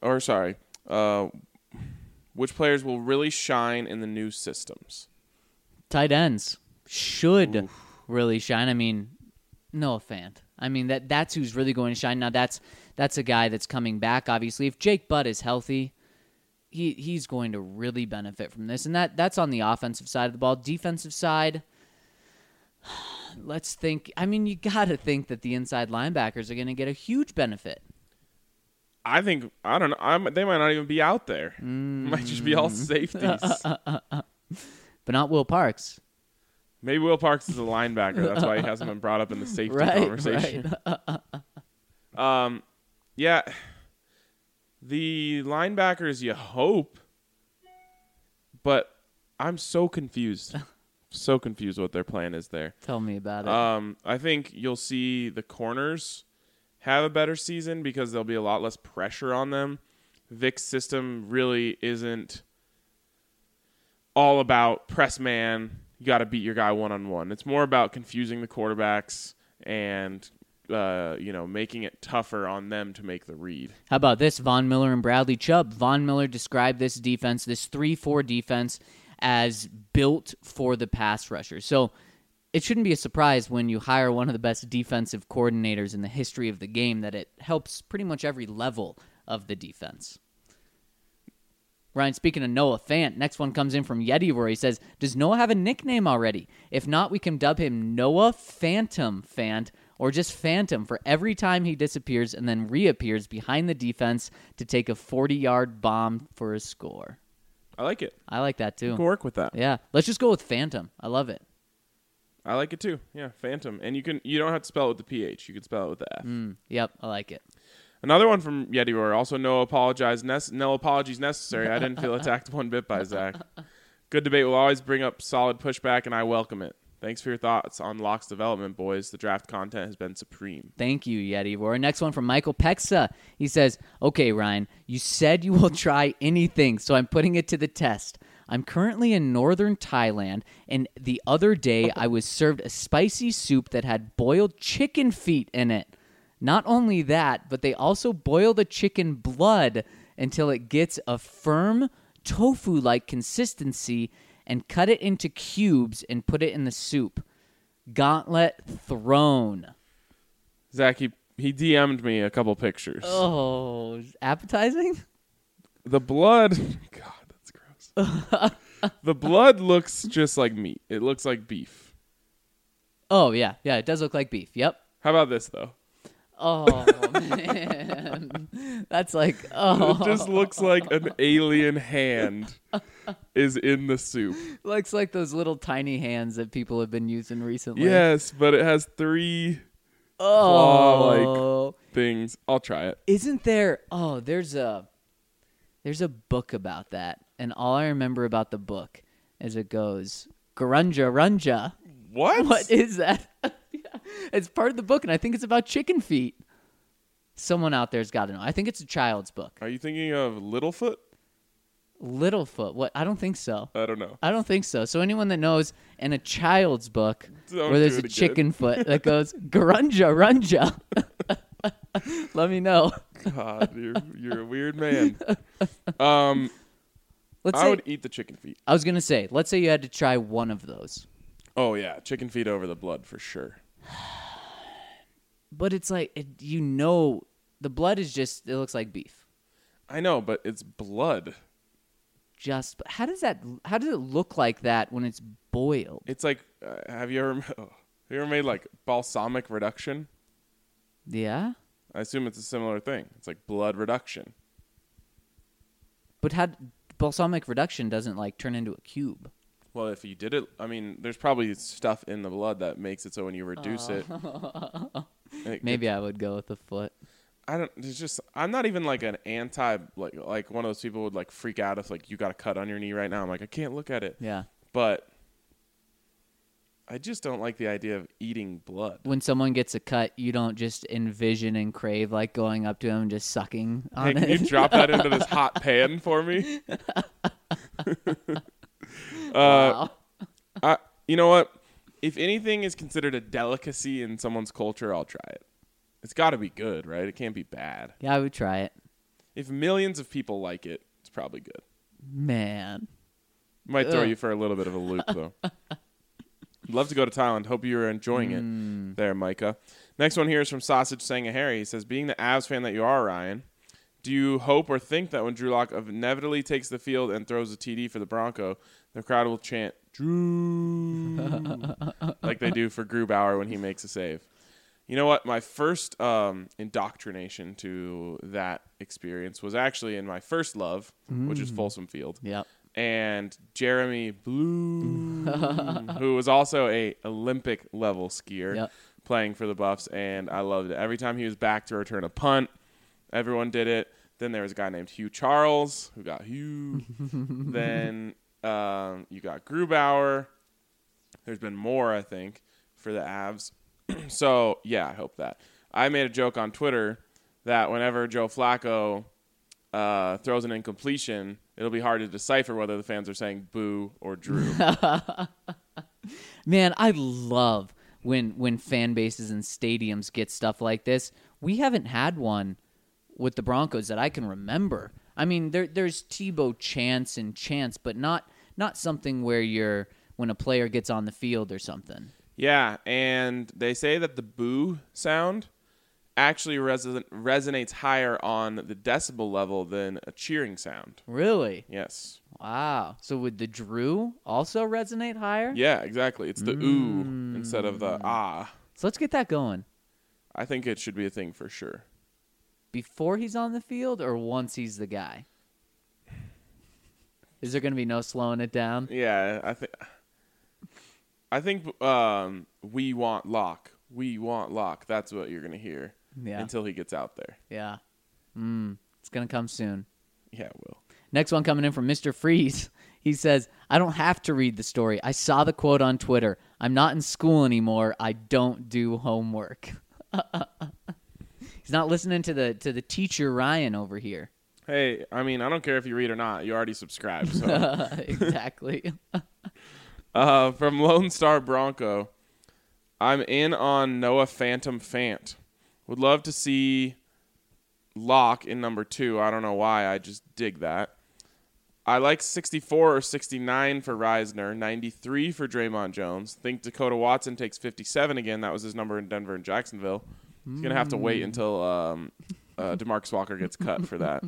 which players will really shine in the new systems? Tight ends should really shine. I mean, Noah Fant. I mean, that's who's really going to shine. Now, that's a guy that's coming back, obviously. If Jake Butt is healthy, he's going to really benefit from this. And that's on the offensive side of the ball. Defensive side, let's think. I mean, you got to think that the inside linebackers are going to get a huge benefit. I don't know. They might not even be out there. Might just be all safeties. But not Will Parks. Maybe Will Parks is a linebacker. That's why he hasn't been brought up in the safety conversation. Right. Yeah. The linebackers, you hope. But I'm so confused. So confused what their plan is there. Tell me about it. I think you'll see the corners have a better season because there'll be a lot less pressure on them. Vic's system really isn't all about press man. You got to beat your guy one-on-one. It's more about confusing the quarterbacks and making it tougher on them to make the read. How about this? Von Miller and Bradley Chubb. Von Miller described this defense, this 3-4 defense, as built for the pass rusher. So it shouldn't be a surprise when you hire one of the best defensive coordinators in the history of the game that it helps pretty much every level of the defense. Ryan, speaking of Noah Fant, next one comes in from Yeti where he says, does Noah have a nickname already? If not, we can dub him Noah Phantom Fant or just Phantom for every time he disappears and then reappears behind the defense to take a 40-yard bomb for a score. I like it. I like that too. You can work with that. Yeah, let's just go with Phantom. I love it. I like it too. Yeah, Phantom. And you don't have to spell it with the PH. You can spell it with the F. Yep, I like it. Another one from Yeti Roar. Also, no apologies necessary. I didn't feel attacked one bit by Zach. Good debate will always bring up solid pushback, and I welcome it. Thanks for your thoughts on Locke's development, boys. The draft content has been supreme. Thank you, Yeti Roar. Next one from Michael Pexa. He says, okay, Ryan, you said you will try anything, so I'm putting it to the test. I'm currently in northern Thailand, and the other day I was served a spicy soup that had boiled chicken feet in it. Not only that, but they also boil the chicken blood until it gets a firm tofu-like consistency and cut it into cubes and put it in the soup. Gauntlet thrown. Zach, he DM'd me a couple pictures. Oh, appetizing? The blood, God, that's gross. The blood looks just like meat. It looks like beef. Oh, yeah. Yeah, it does look like beef. Yep. How about this, though? Oh, man. That's like, It just looks like an alien hand is in the soup. looks like those little tiny hands that people have been using recently. Yes, but it has 3 Oh. claw-like things. I'll try it. Isn't there? Oh, there's a book about that, and all I remember about the book is it goes Garunja Runja. What? What is that? Yeah, it's part of the book, and I think it's about chicken feet. Someone out there's got to know. I think it's a child's book. Are you thinking of Littlefoot? Littlefoot. What? I don't think so. I don't know. I don't think so. So anyone that knows in a child's book Don't where there's do a it again. chicken foot that goes Garunja Runja, let me know. God, you're a weird man. Let's I say, would eat the chicken feet. I was gonna say, let's say you had to try one of those, Oh yeah, chicken feet over the blood for sure. but it's like the blood is just it looks like beef. I know, but it's blood. But how does it look like that when it's boiled? It's like, have you ever made like balsamic reduction? Yeah, I assume it's a similar thing. It's like blood reduction. but balsamic reduction doesn't like turn into a cube. Well, if you did it, I mean, there's probably stuff in the blood that makes it so when you reduce it Maybe I would go with the foot. I'm not even like an anti, like one of those people would like freak out if like you got a cut on your knee right now. I'm like, I can't look at it. Yeah. But I just don't like the idea of eating blood. When someone gets a cut, you don't just envision and crave like going up to them and just sucking Hey, on can it. you drop that into this hot pan for me? Wow. You know what? If anything is considered a delicacy in someone's culture, I'll try it. It's got to be good, right? It can't be bad. Yeah, I would try it. If millions of people like it, it's probably good. Man. Might throw Ugh. you for a little bit of a loop, though. I'd love to go to Thailand. Hope you're enjoying it there, Micah. Next one here is from Sausage Sangahari. He says, being the Avs fan that you are, Ryan, do you hope or think that when Drew Lock inevitably takes the field and throws a TD for the Bronco, the crowd will chant, Drew, like they do for Grubauer when he makes a save? You know what? My first indoctrination to that experience was actually in my first love, which is Folsom Field. Yep. And Jeremy Bloom, who was also a Olympic level skier, Yep. playing for the Buffs, and I loved it. Every time he was back to return a punt, everyone did it. Then there was a guy named Hugh Charles who got Hugh. Then you got Grubauer. There's been more, I think, for the Avs. So, yeah, I hope that. I made a joke on Twitter that whenever Joe Flacco throws an incompletion, it'll be hard to decipher whether the fans are saying boo or Drew. Man, I love when fan bases and stadiums get stuff like this. We haven't had one with the Broncos that I can remember. I mean, there's Tebow chants and chants, but not something where when a player gets on the field or something. Yeah, and they say that the boo sound actually resonates higher on the decibel level than a cheering sound. Really? Yes. Wow. So would the Drew also resonate higher? Yeah, exactly. It's the ooh instead of the ah. So let's get that going. I think it should be a thing for sure. Before he's on the field or once he's the guy? Is there going to be no slowing it down? Yeah, I think we want Locke. We want Locke. That's what you're going to hear until he gets out there. Yeah. It's going to come soon. Yeah, it will. Next one coming in from Mr. Freeze. He says, I don't have to read the story. I saw the quote on Twitter. I'm not in school anymore. I don't do homework. He's not listening to the teacher Ryan over here. Hey, I mean, I don't care if you read or not. You already subscribed. So. Exactly. From Lone Star Bronco, I'm in on Noah Phantom Fant. Would love to see Locke in number 2. I don't know why. I just dig that. I like 64 or 69 for Reisner, 93 for Draymond Jones. Think Dakota Watson takes 57 again. That was his number in Denver and Jacksonville. He's going to have to wait until DeMarcus Walker gets cut for that.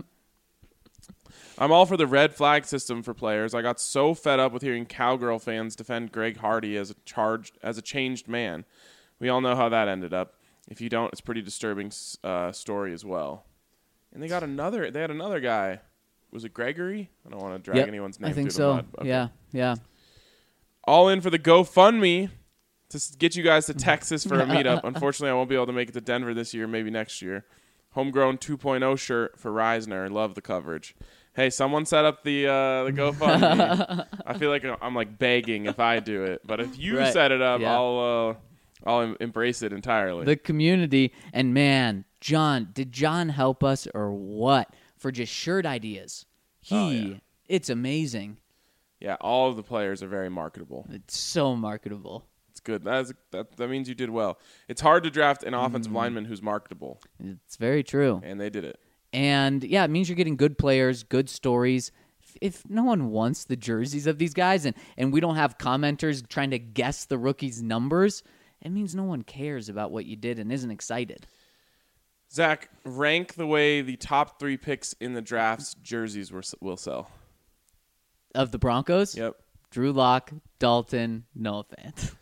I'm all for the red flag system for players. I got so fed up with hearing Cowgirl fans defend Greg Hardy as a changed man. We all know how that ended up. If you don't, it's a pretty disturbing story as well. And they had another guy. Was it Gregory? I don't want to drag anyone's name I think through so. the mud. Okay. Yeah. All in for the GoFundMe to get you guys to Texas for a meetup. Unfortunately, I won't be able to make it to Denver this year, maybe next year. Homegrown 2.0 shirt for Reisner. Love the coverage. Hey, someone set up the GoFundMe. I feel like I'm like begging if I do it, but if you set it up, I'll embrace it entirely. The community, and man, did John help us or what for just shirt ideas? It's amazing. Yeah, all of the players are very marketable. It's so marketable. It's good. That means you did well. It's hard to draft an offensive lineman who's marketable. It's very true. And they did it. And, yeah, it means you're getting good players, good stories. If no one wants the jerseys of these guys and we don't have commenters trying to guess the rookies' numbers, it means no one cares about what you did and isn't excited. Zach, rank the way the top 3 picks in the draft's jerseys will sell. Of the Broncos? Yep. Drew Lock, Dalton, Noah Fant.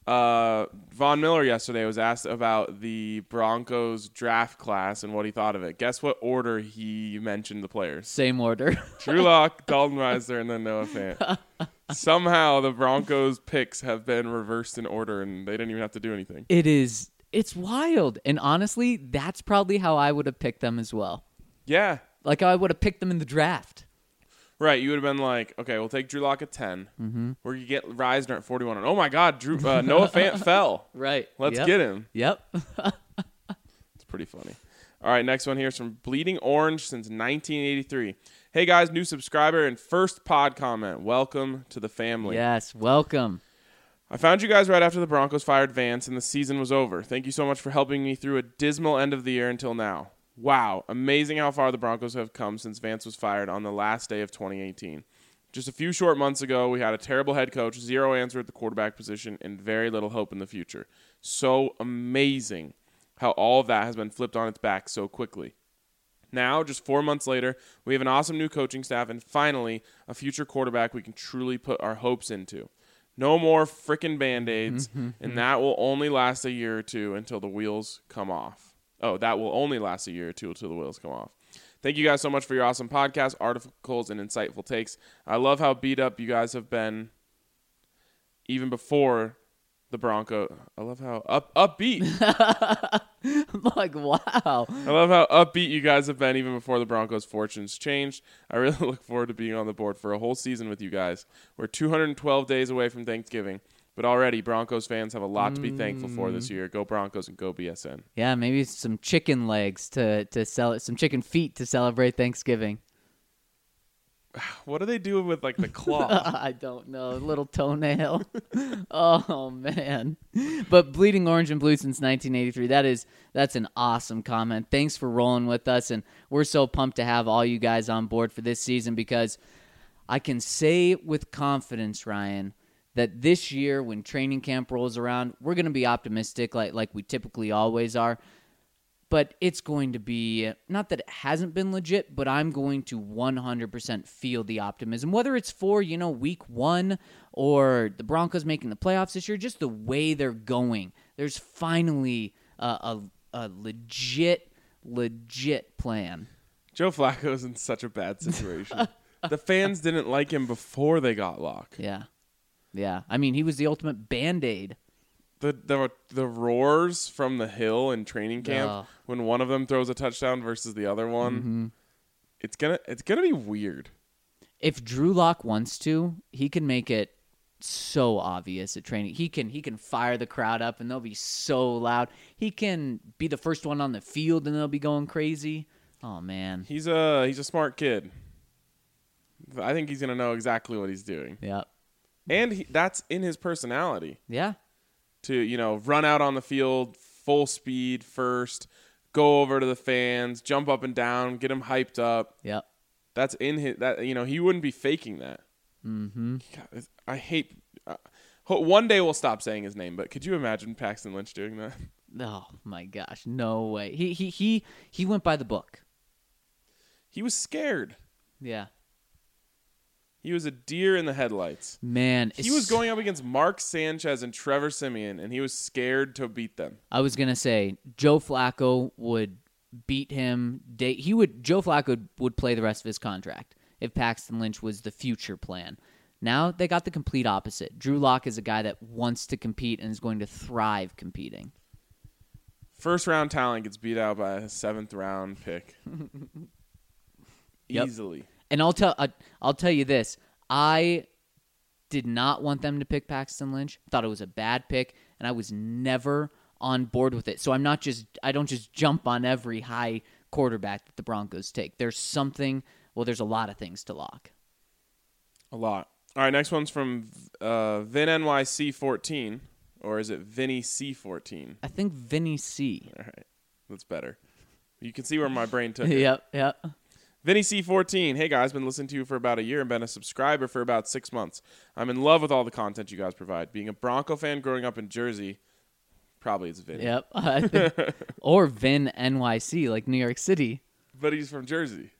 Von Miller yesterday was asked about the Broncos draft class and what he thought of it. Guess what order he mentioned the players? Same order. Drew Lock, Dalton Reisner, and then Noah Fant. Somehow the Broncos picks have been reversed in order, and they didn't even have to do anything. It's wild. And honestly, that's probably how I would have picked them as well. Yeah. Like I would have picked them in the draft. Right, you would have been like, okay, we'll take Drew Lock at 10. Mm-hmm. We're going to get Reisner at 41. And oh, my God, Noah Fant fell. Right. Let's get him. Yep. It's pretty funny. All right, next one here is from Bleeding Orange since 1983. Hey, guys, new subscriber and first pod comment. Welcome to the family. Yes, welcome. I found you guys right after the Broncos fired Vance and the season was over. Thank you so much for helping me through a dismal end of the year until now. Wow, amazing how far the Broncos have come since Vance was fired on the last day of 2018. Just a few short months ago, we had a terrible head coach, zero answer at the quarterback position, and very little hope in the future. So amazing how all of that has been flipped on its back so quickly. Now, just 4 months later, we have an awesome new coaching staff and finally a future quarterback we can truly put our hopes into. No more frickin' Band-Aids, and that will only last a year or two until the wheels come off. Oh, that will only last a year or two until the wheels come off. Thank you guys so much for your awesome podcast, articles, and insightful takes. I love how beat up you guys have been even before the Broncos. I love how upbeat. I'm like, wow. I love how upbeat you guys have been even before the Broncos' fortunes changed. I really look forward to being on the board for a whole season with you guys. We're 212 days away from Thanksgiving. But already, Broncos fans have a lot to be thankful for this year. Go Broncos and go BSN. Yeah, maybe some chicken legs to sell, some chicken feet to celebrate Thanksgiving. What do they do with like the claw? I don't know. Little toenail. Oh man. But bleeding orange and blue since 1983. That's an awesome comment. Thanks for rolling with us, and we're so pumped to have all you guys on board for this season because I can say with confidence, Ryan, that this year when training camp rolls around, we're going to be optimistic like we typically always are. But it's going to be, not that it hasn't been legit, but I'm going to 100% feel the optimism. Whether it's for, week 1 or the Broncos making the playoffs this year, just the way they're going. There's finally a legit plan. Joe Flacco's in such a bad situation. The fans didn't like him before they got Locke. Yeah. I mean, he was the ultimate Band-Aid. The roars from the hill in training camp when one of them throws a touchdown versus the other one, it's gonna be weird. If Drew Lock wants to, he can make it so obvious at training. He can fire the crowd up and they'll be so loud. He can be the first one on the field and they'll be going crazy. Oh man, he's a smart kid. I think he's gonna know exactly what he's doing. Yeah, and that's in his personality. Yeah. To, run out on the field, full speed first, go over to the fans, jump up and down, get him hyped up. Yep. That's in his, he wouldn't be faking that. Mm-hmm. God, I hate, one day we'll stop saying his name, but could you imagine Paxton Lynch doing that? Oh my gosh, no way. He went by the book. He was scared. Yeah. He was a deer in the headlights. Man. He was going up against Mark Sanchez and Trevor Siemian, and he was scared to beat them. I was going to say, Joe Flacco would beat him. Joe Flacco would play the rest of his contract if Paxton Lynch was the future plan. Now they got the complete opposite. Drew Lock is a guy that wants to compete and is going to thrive competing. First-round talent gets beat out by a 7th-round pick. Yep. Easily. And I'll tell you this. I did not want them to pick Paxton Lynch. I thought it was a bad pick, and I was never on board with it. So I don't just jump on every high quarterback that the Broncos take. There's a lot of things to lock. A lot. All right, next one's from VinNYC14, or is it Vinny C14? I think Vinny C. All right, that's better. You can see where my brain took it. Yep. Vinny C14, hey guys, been listening to you for about a year and been a subscriber for about 6 months. I'm in love with all the content you guys provide. Being a Bronco fan growing up in Jersey, probably it's Vinny. Yep. Or Vin NYC, like New York City. But he's from Jersey.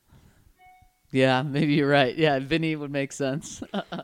Yeah, maybe you're right. Yeah, Vinny would make sense.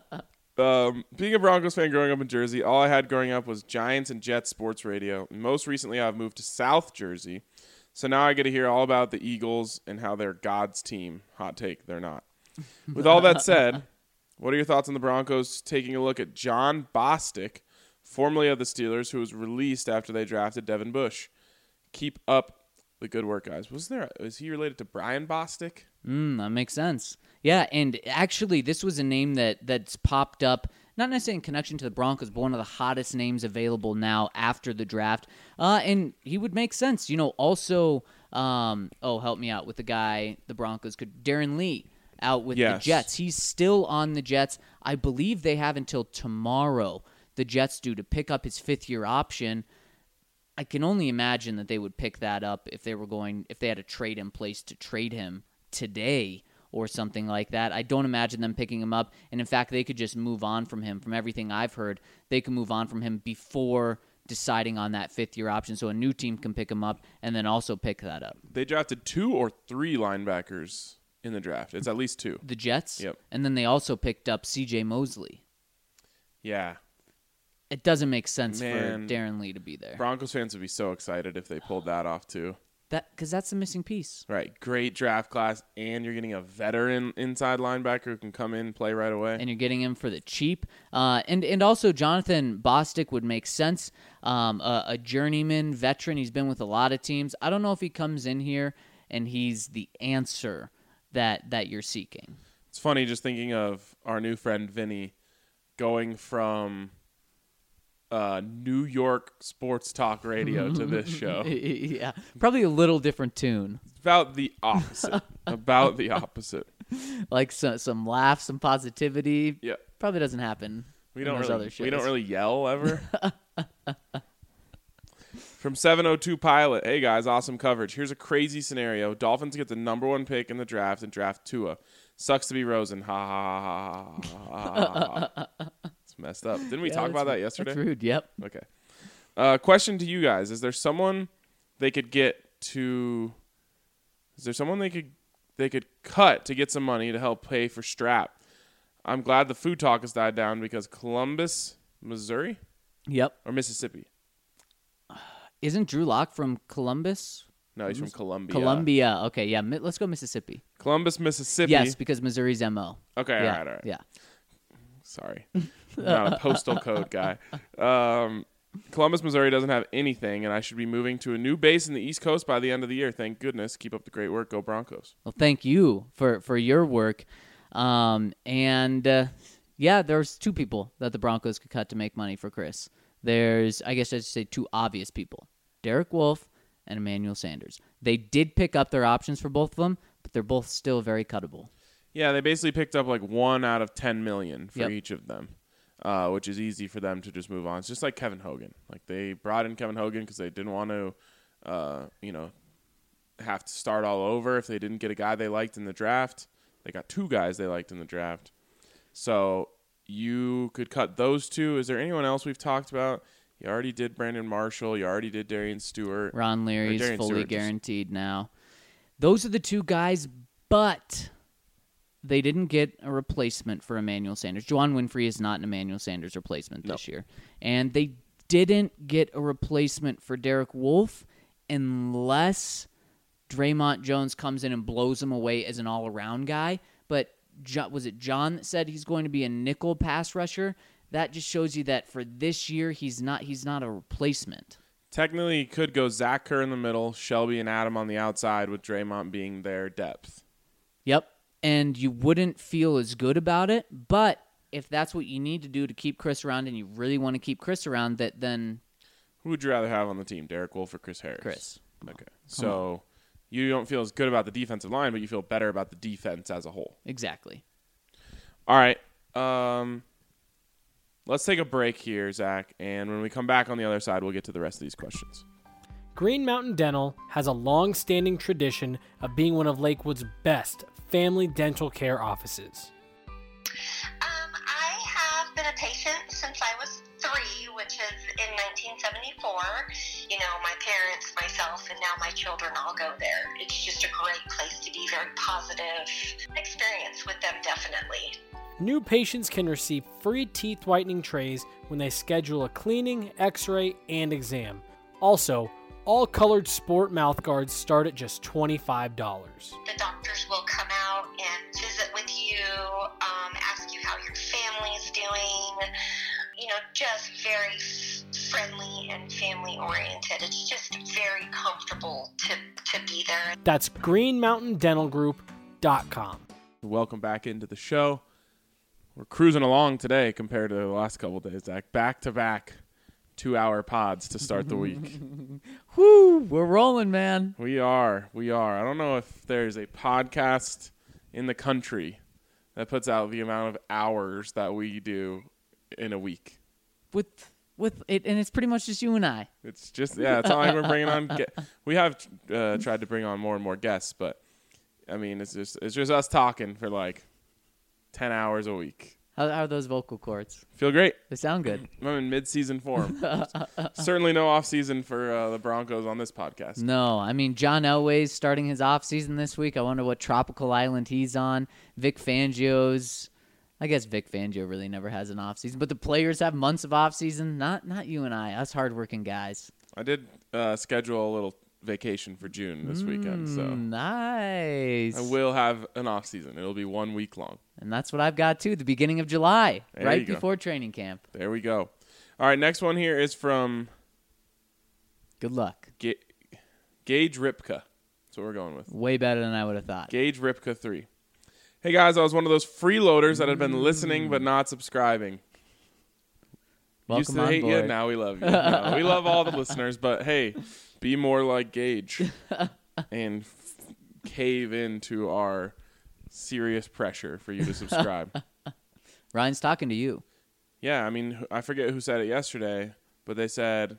Being a Broncos fan growing up in Jersey, all I had growing up was Giants and Jets sports radio. And most recently, I've moved to South Jersey. So now I get to hear all about the Eagles and how they're God's team. Hot take, they're not. With all that said, what are your thoughts on the Broncos taking a look at John Bostic, formerly of the Steelers, who was released after they drafted Devin Bush? Keep up the good work, guys. Is he related to Brian Bostic? That makes sense. Yeah, and actually this was a name that's popped up, not necessarily in connection to the Broncos, but one of the hottest names available now after the draft. And he would make sense. Also, help me out with the guy the Broncos could. Darren Lee out with the Jets. He's still on the Jets. I believe they have until tomorrow, the Jets do, to pick up his 5th-year option. I can only imagine that they would pick that up if they had a trade in place to trade him today or something like that. I don't imagine them picking him up. And in fact, they could just move on from him. From everything I've heard, they can move on from him before deciding on that 5th-year option. So a new team can pick him up and then also pick that up. They drafted 2 or 3 linebackers in the draft. It's at least 2. The Jets? Yep. And then they also picked up C.J. Mosley. Yeah. It doesn't make sense for Darren Lee to be there. Broncos fans would be so excited if they pulled that off too. Because that's the missing piece. Right. Great draft class, and you're getting a veteran inside linebacker who can come in and play right away. And you're getting him for the cheap. And also Jonathan Bostic would make sense. A journeyman veteran. He's been with a lot of teams. I don't know if he comes in here and he's the answer that you're seeking. It's funny just thinking of our new friend Vinny going from New York sports talk radio to this show. Yeah, probably a little different tune. About the opposite. About the opposite. Like some laughs, some positivity. Yep. Probably doesn't happen. We in don't those really other shows. we don't really yell ever. From 702 Pilot, hey guys, awesome coverage. Here's a crazy scenario. Dolphins get the number 1 pick in the draft and draft Tua. Sucks to be Rosen. Ha ha ha ha ha ha. It's messed up. Didn't we talk about that yesterday? That's rude. Yep. Okay. Question to you guys. Is there someone they could get to Is there someone they could cut to get some money to help pay for Strap? I'm glad the food talk has died down because Columbus, Missouri? Yep. Or Mississippi? Isn't Drew Lock from Columbus? No, he's from Columbia. Columbia. Okay, yeah. Let's go Mississippi. Columbus, Mississippi. Yes, because Missouri's MO. Okay, Yeah, all right. Yeah. Sorry. I'm not a postal code guy. Columbus, Missouri doesn't have anything, and I should be moving to a new base in the East Coast by the end of the year. Thank goodness. Keep up the great work. Go Broncos. Well, thank you for your work. Yeah, there's 2 people that the Broncos could cut to make money for Chris. There's, I guess I should say 2 obvious people. Derek Wolfe and Emmanuel Sanders. They did pick up their options for both of them, but they're both still very cuttable. Yeah, they basically picked up like 1 out of 10 million for Yep. each of them, which is easy for them to just move on. It's just like Kevin Hogan. Like they brought in Kevin Hogan because they didn't want to, have to start all over if they didn't get a guy they liked in the draft. They got 2 guys they liked in the draft. So you could cut those 2. Is there anyone else we've talked about? You already did Brandon Marshall. You already did Darian Stewart. Ron Leary's Darian fully Stewart, guaranteed now. Those are the 2 guys, but they didn't get a replacement for Emmanuel Sanders. Juwan Winfrey is not an Emmanuel Sanders replacement this year. And they didn't get a replacement for Derek Wolfe unless Draymond Jones comes in and blows him away as an all-around guy. But was it John that said he's going to be a nickel pass rusher? That just shows you that for this year, he's not a replacement. Technically, he could go Zach Kerr in the middle, Shelby and Adam on the outside, with Draymond being their depth. Yep. And you wouldn't feel as good about it, but if that's what you need to do to keep Chris around and you really want to keep Chris around, then... Who would you rather have on the team, Derek Wolfe or Chris Harris? Chris. Okay. So you don't feel as good about the defensive line, but you feel better about the defense as a whole. Exactly. All right. Let's take a break here, Zach, and when we come back on the other side, we'll get to the rest of these questions. Green Mountain Dental has a long-standing tradition of being one of Lakewood's best family dental care offices. I have been a patient since I was 3, which is in 1974. You know, my parents, myself, and now my children all go there. It's just a great place to be, very positive experience with them, definitely. New patients can receive free teeth whitening trays when they schedule a cleaning, x-ray, and exam. Also, all colored sport mouth guards start at just $25. The doctors will come out and visit with you, ask you how your family's doing, you know, just very friendly and family oriented. It's just very comfortable to be there. That's greenmountaindentalgroup.com. Welcome back into the show. We're cruising along today compared to the last couple of days, Zach. Back-to-back 2-hour pods to start the week. Whoo, we're rolling, man. We are. I don't know if there's a podcast in the country that puts out the amount of hours that we do in a week. With it, and it's pretty much just you and I. It's just, it's not like we're bringing on. We have tried to bring on more and more guests, but I mean, it's just us talking for like 10 hours a week. How are those vocal cords? Feel great. They sound good. I'm in mid-season form. Certainly no off-season for the Broncos on this podcast. No, I mean, John Elway's starting his offseason this week. I wonder what tropical island he's on. Vic Fangio's... I guess Vic Fangio really never has an offseason, but the players have months of offseason. Not you and I, us hardworking guys. I did schedule a little vacation for June this weekend, so nice. I will have an off-season. It'll be 1 week long. And that's what I've got, too, the beginning of July, There right you go. before training camp. There we go. All right, next one here is from Good luck. Gage Ripka. That's what we're going with. Way better than I would have thought. Gage Ripka 3. Hey, guys, I was one of those freeloaders that had been listening but not subscribing. Used Welcome to on hate board. you, now we love you. No, we love all the listeners, but hey, be more like Gage and cave into our serious pressure for you to subscribe. Ryan's talking to you. Yeah, I mean, I forget who said it yesterday, but they said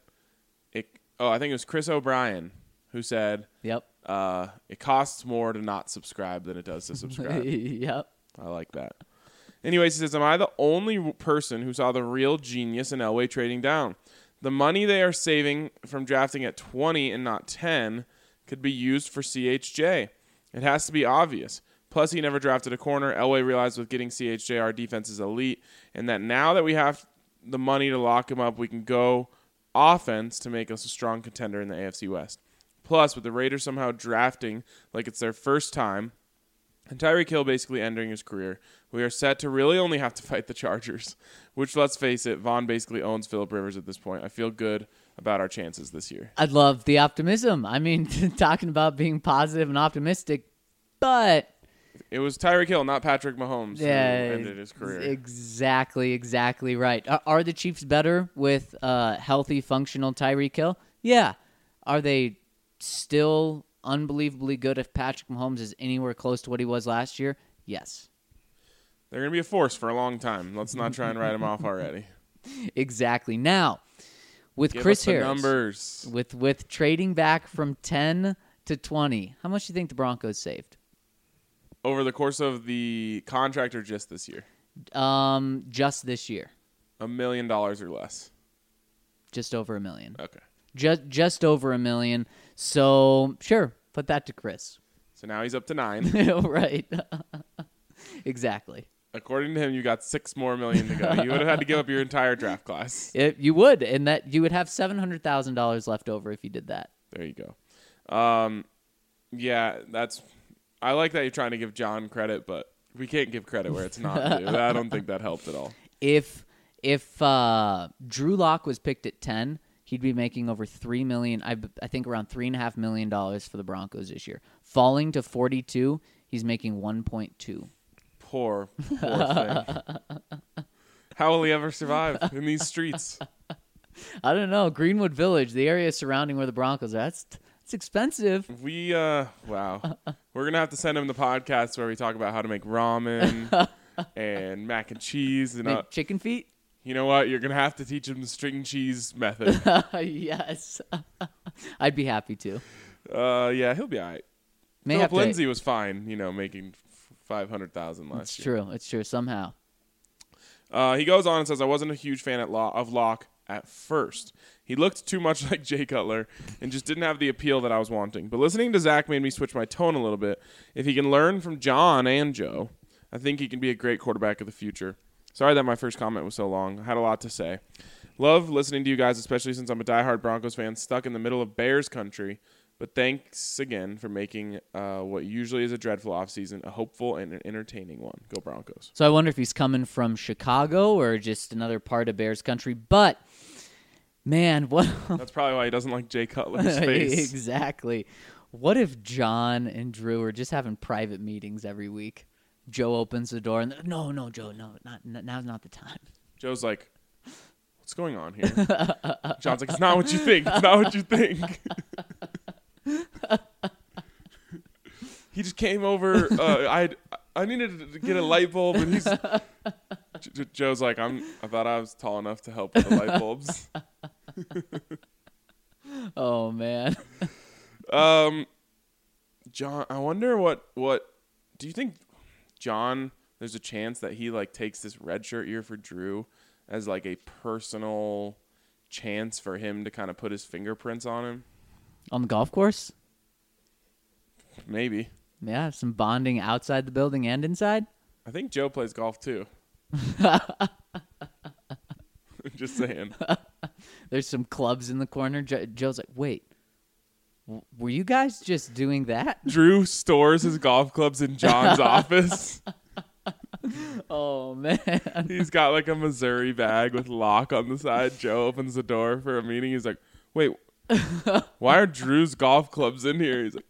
I think it was Chris O'Brien who said, Yep. it costs more to not subscribe than it does to subscribe. Yep. I like that. Anyways, he says, am I the only person who saw the real genius in Elway trading down? The money they are saving from drafting at 20 and not 10 could be used for CHJ. It has to be obvious. Plus, he never drafted a corner. Elway realized with getting CHJ, our defense is elite, and that now that we have the money to lock him up, we can go offense to make us a strong contender in the AFC West. Plus, with the Raiders somehow drafting like it's their first time, and Tyreek Hill basically ending his career, we are set to really only have to fight the Chargers, which, let's face it, Vaughn basically owns Phillip Rivers at this point. I feel good about our chances this year. I love the optimism. I mean, talking about being positive and optimistic, but It was Tyreek Hill, not Patrick Mahomes, who ended his career. Exactly right. Are the Chiefs better with healthy, functional Tyreek Hill? Yeah. Are they still unbelievably good if Patrick Mahomes is anywhere close to what he was last year? Yes. They're going to be a force for a long time. Let's not try and write them off already. Exactly. Now, with Give Chris us the Harris, numbers. with trading back from 10 to 20, how much do you think the Broncos saved? Over the course of the contract or just this year? Just this year. $1 million or less. Just over $1 million. Okay. Just over $1 million. So, sure, put that to Chris. So now he's up to 9. Right. Exactly. According to him, you got $6 more million to go. You would have had to give up your entire draft class. You would, and that you would have $700,000 left over if you did that. There you go. Yeah, I like that you're trying to give John credit, but we can't give credit where it's not due. I don't think that helped at all. If Drew Lock was picked at 10, he'd be making over $3 million. I think around $3.5 million for the Broncos this year. Falling to 42, he's making 1.2. Poor thing. How will he ever survive in these streets? I don't know. Greenwood Village, the area surrounding where the Broncos are, it's expensive. Wow. We're going to have to send him the podcast where we talk about how to make ramen and mac and cheese. And Make chicken feet? you know what? You're going to have to teach him the string cheese method. Yes. I'd be happy to. Yeah, he'll be all right. May Philip have to- Lindsay was fine, making $500,000 last year. It's true. Somehow. He goes on and says, I wasn't a huge fan of Locke at first. He looked too much like Jay Cutler and just didn't have the appeal that I was wanting. But listening to Zach made me switch my tone a little bit. If he can learn from John and Joe, I think he can be a great quarterback of the future. Sorry that my first comment was so long. I had a lot to say. Love listening to you guys, especially since I'm a diehard Broncos fan stuck in the middle of Bears country. But thanks again for making what usually is a dreadful offseason a hopeful and an entertaining one. Go Broncos. So I wonder if he's coming from Chicago or just another part of Bears country. But, man, what... That's probably why he doesn't like Jay Cutler's face. Exactly. What if John and Drew are just having private meetings every week? Joe opens the door and, no, Joe, no, now's not the time. Joe's like, what's going on here? John's like, it's not what you think. It's not what you think. He just came over. I needed to get a light bulb, and he's Joe's like, I thought I was tall enough to help with the light bulbs. Oh man. John, I wonder what do you think, John? There's a chance that he takes this red shirt year for Drew as a personal chance for him to kind of put his fingerprints on him. On the golf course? Maybe. Yeah, some bonding outside the building and inside. I think Joe plays golf too. Just saying. There's some clubs in the corner. Joe's like, wait, were you guys just doing that? Drew stores his golf clubs in John's office. Oh, man. He's got a Missouri bag with lock on the side. Joe opens the door for a meeting. He's like, wait, why are Drew's golf clubs in here? He's like,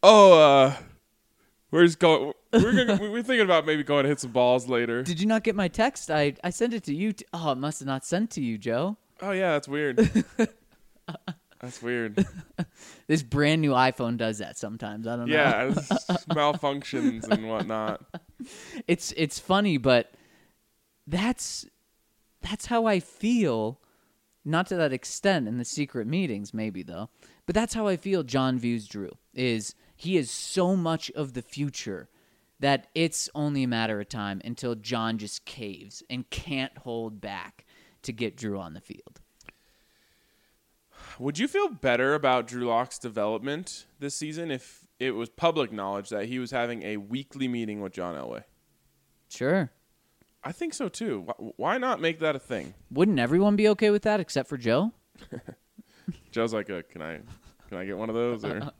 we're thinking about maybe going to hit some balls later. Did you not get my text? I sent it to you. Oh, it must have not sent to you, Joe. Oh, yeah, that's weird. That's weird. This brand new iPhone does that sometimes. I don't know. Yeah, it's malfunctions and whatnot. It's funny, but that's how I feel. Not to that extent in the secret meetings, maybe though. But that's how I feel John views Drew. He is so much of the future that it's only a matter of time until John just caves and can't hold back to get Drew on the field. Would you feel better about Drew Lock's development this season if it was public knowledge that he was having a weekly meeting with John Elway? Sure. I think so too. Why not make that a thing? Wouldn't everyone be okay with that except for Joe? Joe's like, can I get one of those? Or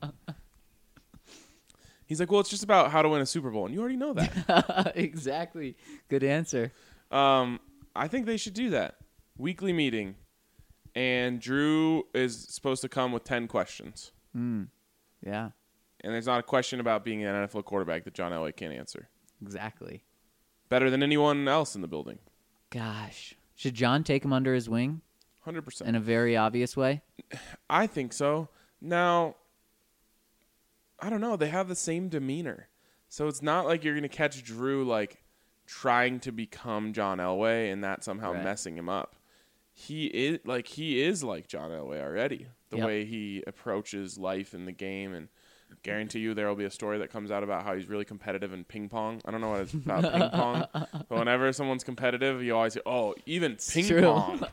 he's like, well, it's just about how to win a Super Bowl, and you already know that. Exactly. Good answer. I think they should do that. Weekly meeting, and Drew is supposed to come with 10 questions. Yeah, And there's not a question about being an NFL quarterback that John Elway can't answer. exactly. Better than anyone else in the building. Gosh. Should John take him under his wing 100%. in a very obvious way? I think so. Now, I don't know. They have the same demeanor. So it's not like you're going to catch Drew like trying to become John Elway and that somehow Right. messing him up. He is like John Elway already. The Yep. way he approaches life in the game, and guarantee you there will be a story that comes out about how he's really competitive in ping pong. I don't know what it's about ping pong, but whenever someone's competitive, you always say, "Oh, even ping true. pong."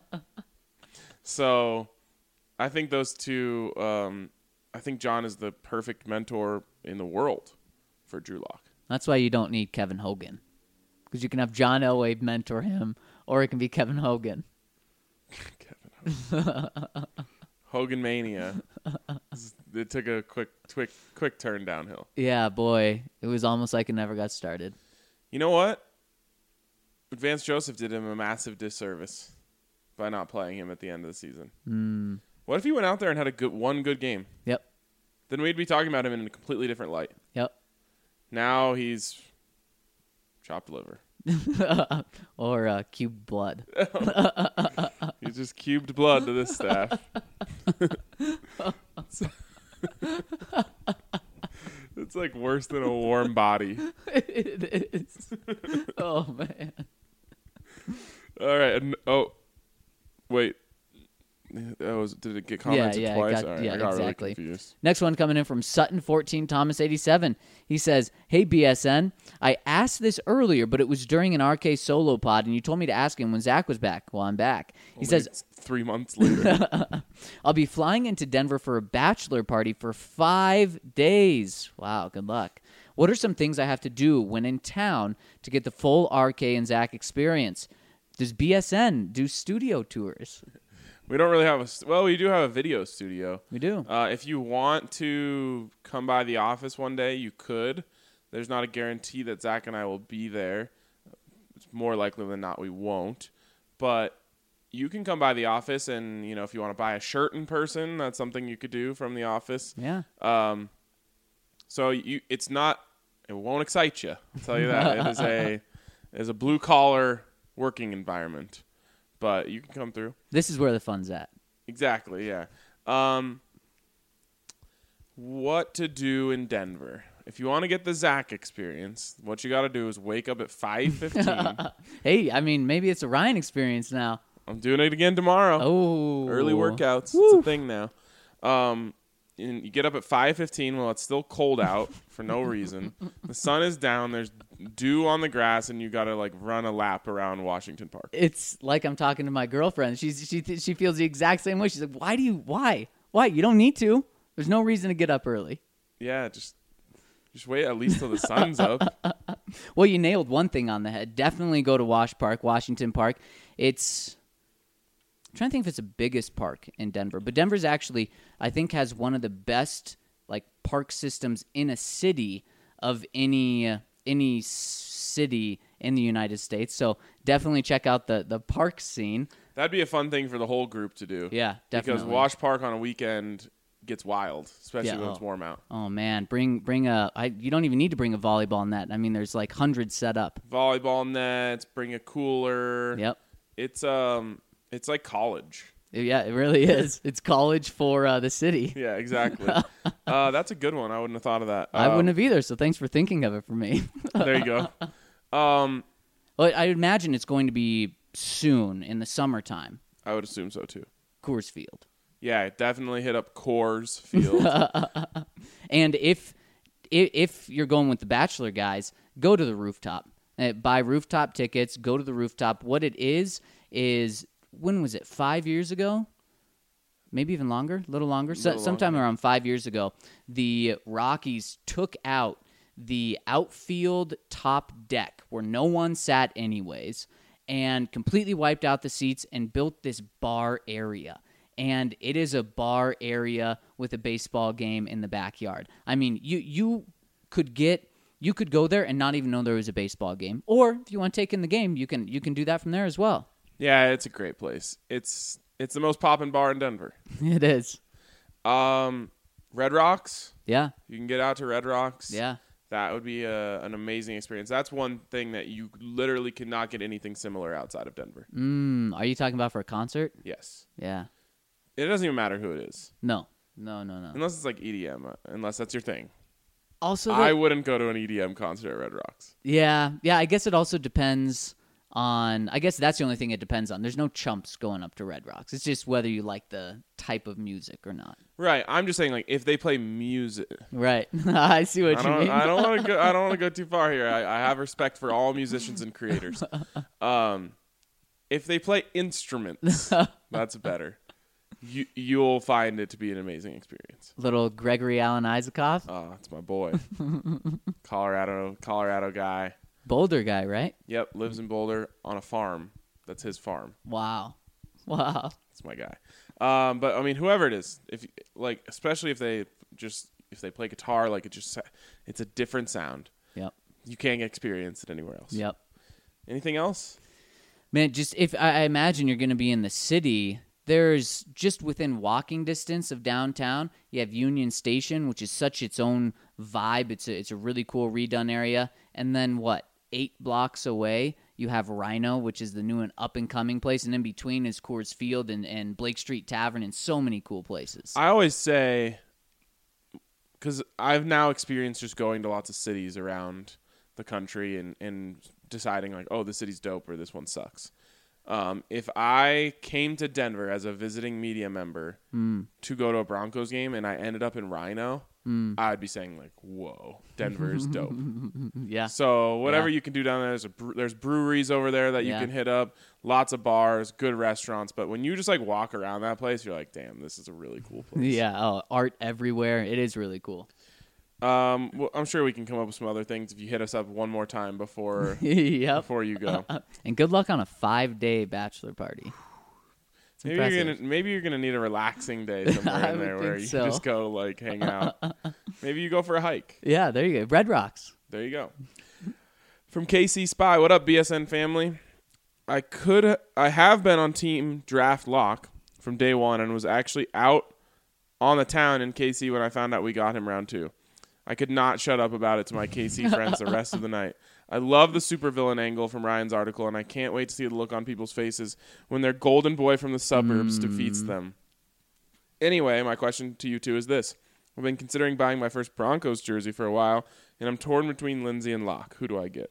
So, I think those two. I think John is the perfect mentor in the world for Drew Lock. That's why you don't need Kevin Hogan. Because you can have John Elway mentor him, or it can be Kevin Hogan. Hogan Mania. It took a quick turn downhill. Yeah, boy. It was almost like it never got started. You know what? Vance Joseph did him a massive disservice by not playing him at the end of the season. What if he went out there and had one good game? Yep. Then we'd be talking about him in a completely different light. Yep. Now he's chopped liver. Or cubed blood. He's just cubed blood to this staff. It's like worse than a warm body. It is. Oh, man. All right. Wait. Did it get commented Yeah, twice? I All right, I got exactly. really confused. Next one coming in from Sutton14 Thomas 87. He says, "Hey BSN, I asked this earlier, but it was during an RK solo pod, and you told me to ask him when Zach was back. Well, I'm back." He says, It's 3 months later. "I'll be flying into Denver for a bachelor party for 5 days. Wow, good luck. What are some things I have to do when in town to get the full RK and Zach experience? Does BSN do studio tours?" We don't really have we do have a video studio. We do. If you want to come by the office one day, you could. There's not a guarantee that Zach and I will be there. It's more likely than not we won't. But you can come by the office, and if you want to buy a shirt in person, that's something you could do from the office. Yeah. So it won't excite you. I'll tell you that. It is a blue collar working environment. But you can come through. This is where the fun's at. Exactly, yeah. What to do in Denver? If you want to get the Zach experience, what you got to do is wake up at 5:15. Hey, I mean, maybe it's a Ryan experience now. I'm doing it again tomorrow. Oh. Early workouts. It's a thing now. And you get up at 5:15 while it's still cold out for no reason. The sun is down. There's dew on the grass, and you got to run a lap around Washington Park. It's like I'm talking to my girlfriend. She feels the exact same way. She's like, why? You don't need to. There's no reason to get up early. Yeah, just wait at least till the sun's up. Well, you nailed one thing on the head. Definitely go to Washington Park. I'm trying to think if it's the biggest park in Denver, but Denver's actually, I think, has one of the best park systems in a city of any city in the United States. So definitely check out the park scene. That'd be a fun thing for the whole group to do. Yeah, definitely. Because Wash Park on a weekend gets wild, especially when it's warm out. Oh man, you don't even need to bring a volleyball net. I mean, there's hundreds set up. Volleyball nets, bring a cooler. Yep. It's like college. Yeah, it really is. It's college for the city. Yeah, exactly. That's a good one. I wouldn't have thought of that. I wouldn't have either, so thanks for thinking of it for me. There you go. Well, I imagine it's going to be soon in the summertime. I would assume so too. Coors Field. Yeah, definitely hit up Coors Field. And if you're going with the Bachelor guys, go to the rooftop. Buy rooftop tickets. Go to the rooftop. What it is when was it? 5 years ago? Maybe even longer? A little longer? Sometime around 5 years ago, the Rockies took out the outfield top deck where no one sat anyways and completely wiped out the seats and built this bar area. And it is a bar area with a baseball game in the backyard. I mean, you could go there and not even know there was a baseball game. Or if you want to take in the game, you can do that from there as well. Yeah, it's a great place. It's the most poppin' bar in Denver. It is. Red Rocks. Yeah. You can get out to Red Rocks. Yeah. That would be an amazing experience. That's one thing that you literally cannot get anything similar outside of Denver. Are you talking about for a concert? Yes. Yeah. It doesn't even matter who it is. No. Unless it's like EDM, unless that's your thing. Also, I wouldn't go to an EDM concert at Red Rocks. Yeah. I guess it also depends on. I guess that's the only thing it depends on. There's no chumps going up to Red Rocks. It's just whether you like the type of music or not. Right. I'm just saying, like, if they play music. Right. I see what you mean. I don't want to go. I don't want to go too far here. I have respect for all musicians and creators. If they play instruments, that's better. You'll find it to be an amazing experience. Little Gregory Alan Isaacoff. Oh, that's my boy. Colorado guy. Boulder guy, right? Yep, lives in Boulder on a farm. That's his farm. Wow. That's my guy. But I mean, whoever it is, especially if they play guitar, it's a different sound. Yep. You can't experience it anywhere else. Yep. Anything else? Man, just if I imagine you're going to be in the city, there's just within walking distance of downtown, you have Union Station, which is such its own vibe. It's a really cool redone area. And then 8 blocks away, you have Rhino, which is the new and up-and-coming place. And in between is Coors Field and Blake Street Tavern and so many cool places. I always say, because I've now experienced just going to lots of cities around the country and deciding, like, oh, this city's dope or this one sucks. If I came to Denver as a visiting media member to go to a Broncos game and I ended up in Rhino, I'd be saying, like, whoa, Denver is dope. Yeah. So whatever you can do down there, there's breweries over there that you can hit up, lots of bars, good restaurants. But when you just, like, walk around that place, you're like, damn, this is a really cool place. Yeah, art everywhere. It is really cool. Well, I'm sure we can come up with some other things if you hit us up one more time before before you go. And good luck on a 5-day bachelor party. Maybe you're gonna need a relaxing day somewhere in there where you just go like hang out. Maybe you go for a hike. Yeah, there you go. Red Rocks. There you go. From KC Spy, what up, BSN family? I have been on Team Draft Lock from day one and was actually out on the town in KC when I found out we got him round 2. I could not shut up about it to my KC friends the rest of the night. I love the supervillain angle from Ryan's article, and I can't wait to see the look on people's faces when their golden boy from the suburbs defeats them. Anyway, my question to you two is this. I've been considering buying my first Broncos jersey for a while, and I'm torn between Lindsey and Locke. Who do I get?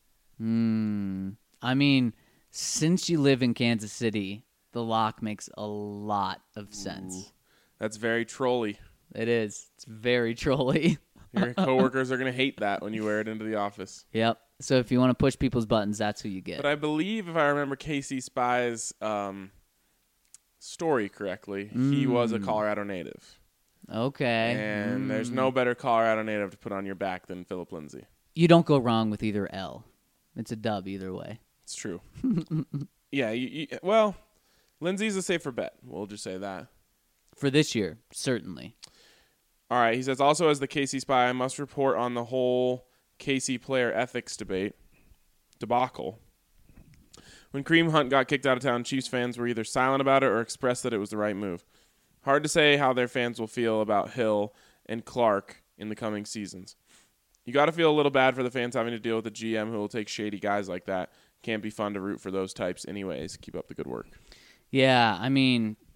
I mean, since you live in Kansas City, the Locke makes a lot of sense. Ooh, that's very trolly. It is. It's very trolly. Your coworkers are going to hate that when you wear it into the office. Yep. So if you want to push people's buttons, that's who you get. But I believe, if I remember KC Spy's story correctly, he was a Colorado native. Okay. And there's no better Colorado native to put on your back than Philip Lindsay. You don't go wrong with either L. It's a dub either way. It's true. Yeah. Well, Lindsay's a safer bet. We'll just say that. For this year, certainly. All right. He says, also as the KC Spy, I must report on the whole KC player ethics debacle. When Kareem Hunt got kicked out of town, Chiefs fans were either silent about it or expressed that it was the right move. Hard to say how their fans will feel about Hill and Clark in the coming seasons. You got to feel a little bad for the fans having to deal with a GM who will take shady guys like that. Can't be fun to root for those types anyways. Keep up the good work. Yeah, I mean,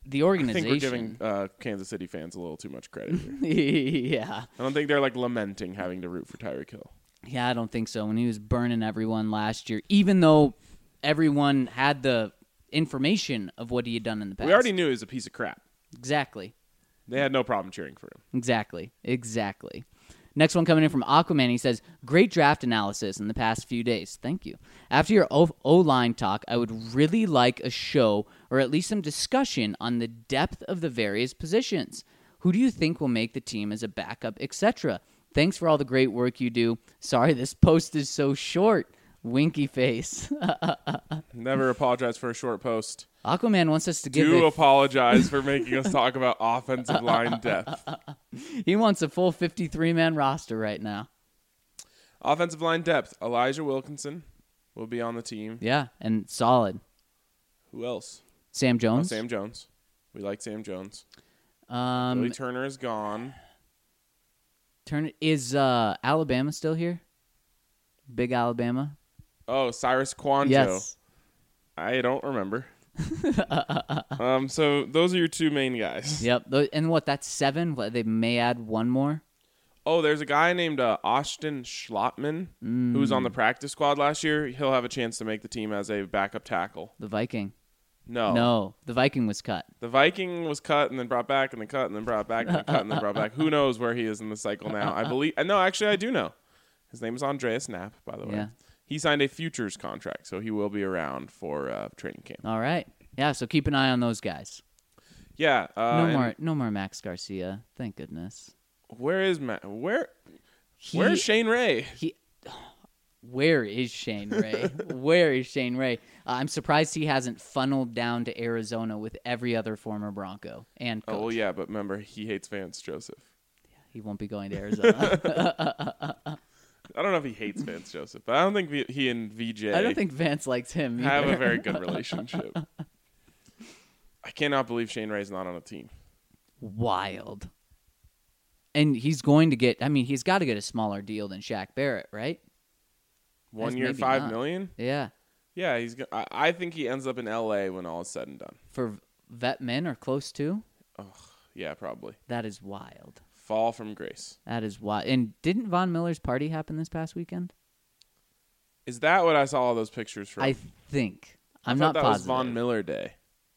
the I organization. think we're giving Kansas City fans a little too much credit here. Yeah. I don't think they're like lamenting having to root for Tyreek Hill. Yeah, I don't think so. When he was burning everyone last year, even though everyone had the information of what he had done in the past. We already knew he was a piece of crap. Exactly. They had no problem cheering for him. Exactly. Next one coming in from Aquaman. He says, great draft analysis in the past few days. Thank you. After your O-line talk, I would really like a show or at least some discussion on the depth of the various positions. Who do you think will make the team as a backup, etc.? Thanks for all the great work you do. Sorry this post is so short. Winky face. Never apologize for a short post. Aquaman wants us to give Do apologize for making us talk about offensive line depth. He wants a full 53-man roster right now. Offensive line depth. Elijah Wilkinson will be on the team. Yeah, and solid. Who else? Sam Oh, Jones. Sam Jones. We like Sam Jones. Billy Turner is gone. Is Alabama still here? Big Alabama? Oh, Cyrus Kwanjo. Yes. I don't remember. So those are your two main guys. Yep. And what, that's 7? What, they may add one more? Oh, there's a guy named Austin Schlottman who was on the practice squad last year. He'll have a chance to make the team as a backup tackle. The Viking. No. No, the Viking was cut. The Viking was cut and then brought back and then cut and then brought back and then cut and then brought back. Who knows where he is in the cycle now? I believe. No, actually, I do know. His name is Andreas Knapp, by the way. Yeah. He signed a futures contract, so he will be around for training camp. All right. Yeah, so keep an eye on those guys. Yeah. No more Max Garcia. Thank goodness. Where is Matt? Where's Shane Ray? Where is Shane Ray? Where is Shane Ray? I'm surprised he hasn't funneled down to Arizona with every other former Bronco and coach. Oh, well, yeah, but remember, he hates Vance Joseph. He won't be going to Arizona. I don't know if he hates Vance Joseph, but I don't think he and VJ I don't think Vance likes him either. have a very good relationship. I cannot believe Shane Ray's not on a team. Wild. And he's going to get, he's got to get a smaller deal than Shaq Barrett, right? 1 year, maybe $5 not. million? Yeah. Yeah, I think he ends up in L.A. when all is said and done. For vet men or close to? Yeah, probably. That is wild. Fall from grace. That is wild. And didn't Von Miller's party happen this past weekend? Is that what I saw all those pictures from? I think. I'm I not thought that positive. was Von Miller Day.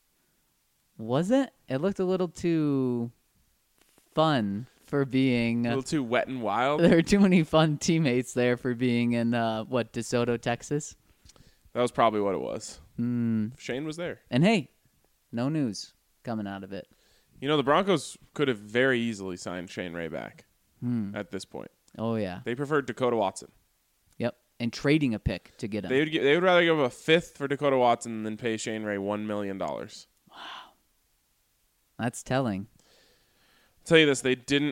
Was it? It looked a little too fun for being... A little too wet and wild. there are too many fun teammates there for being in, DeSoto, Texas. That was probably what it was. Shane was there. And hey, no news coming out of it. You know, the Broncos could have very easily signed Shane Ray back at this point. Oh, yeah. They preferred Dakota Watson. Yep. And trading a pick to get him. They would rather give a fifth for Dakota Watson than pay Shane Ray $1 million. That's telling. I'll tell you this,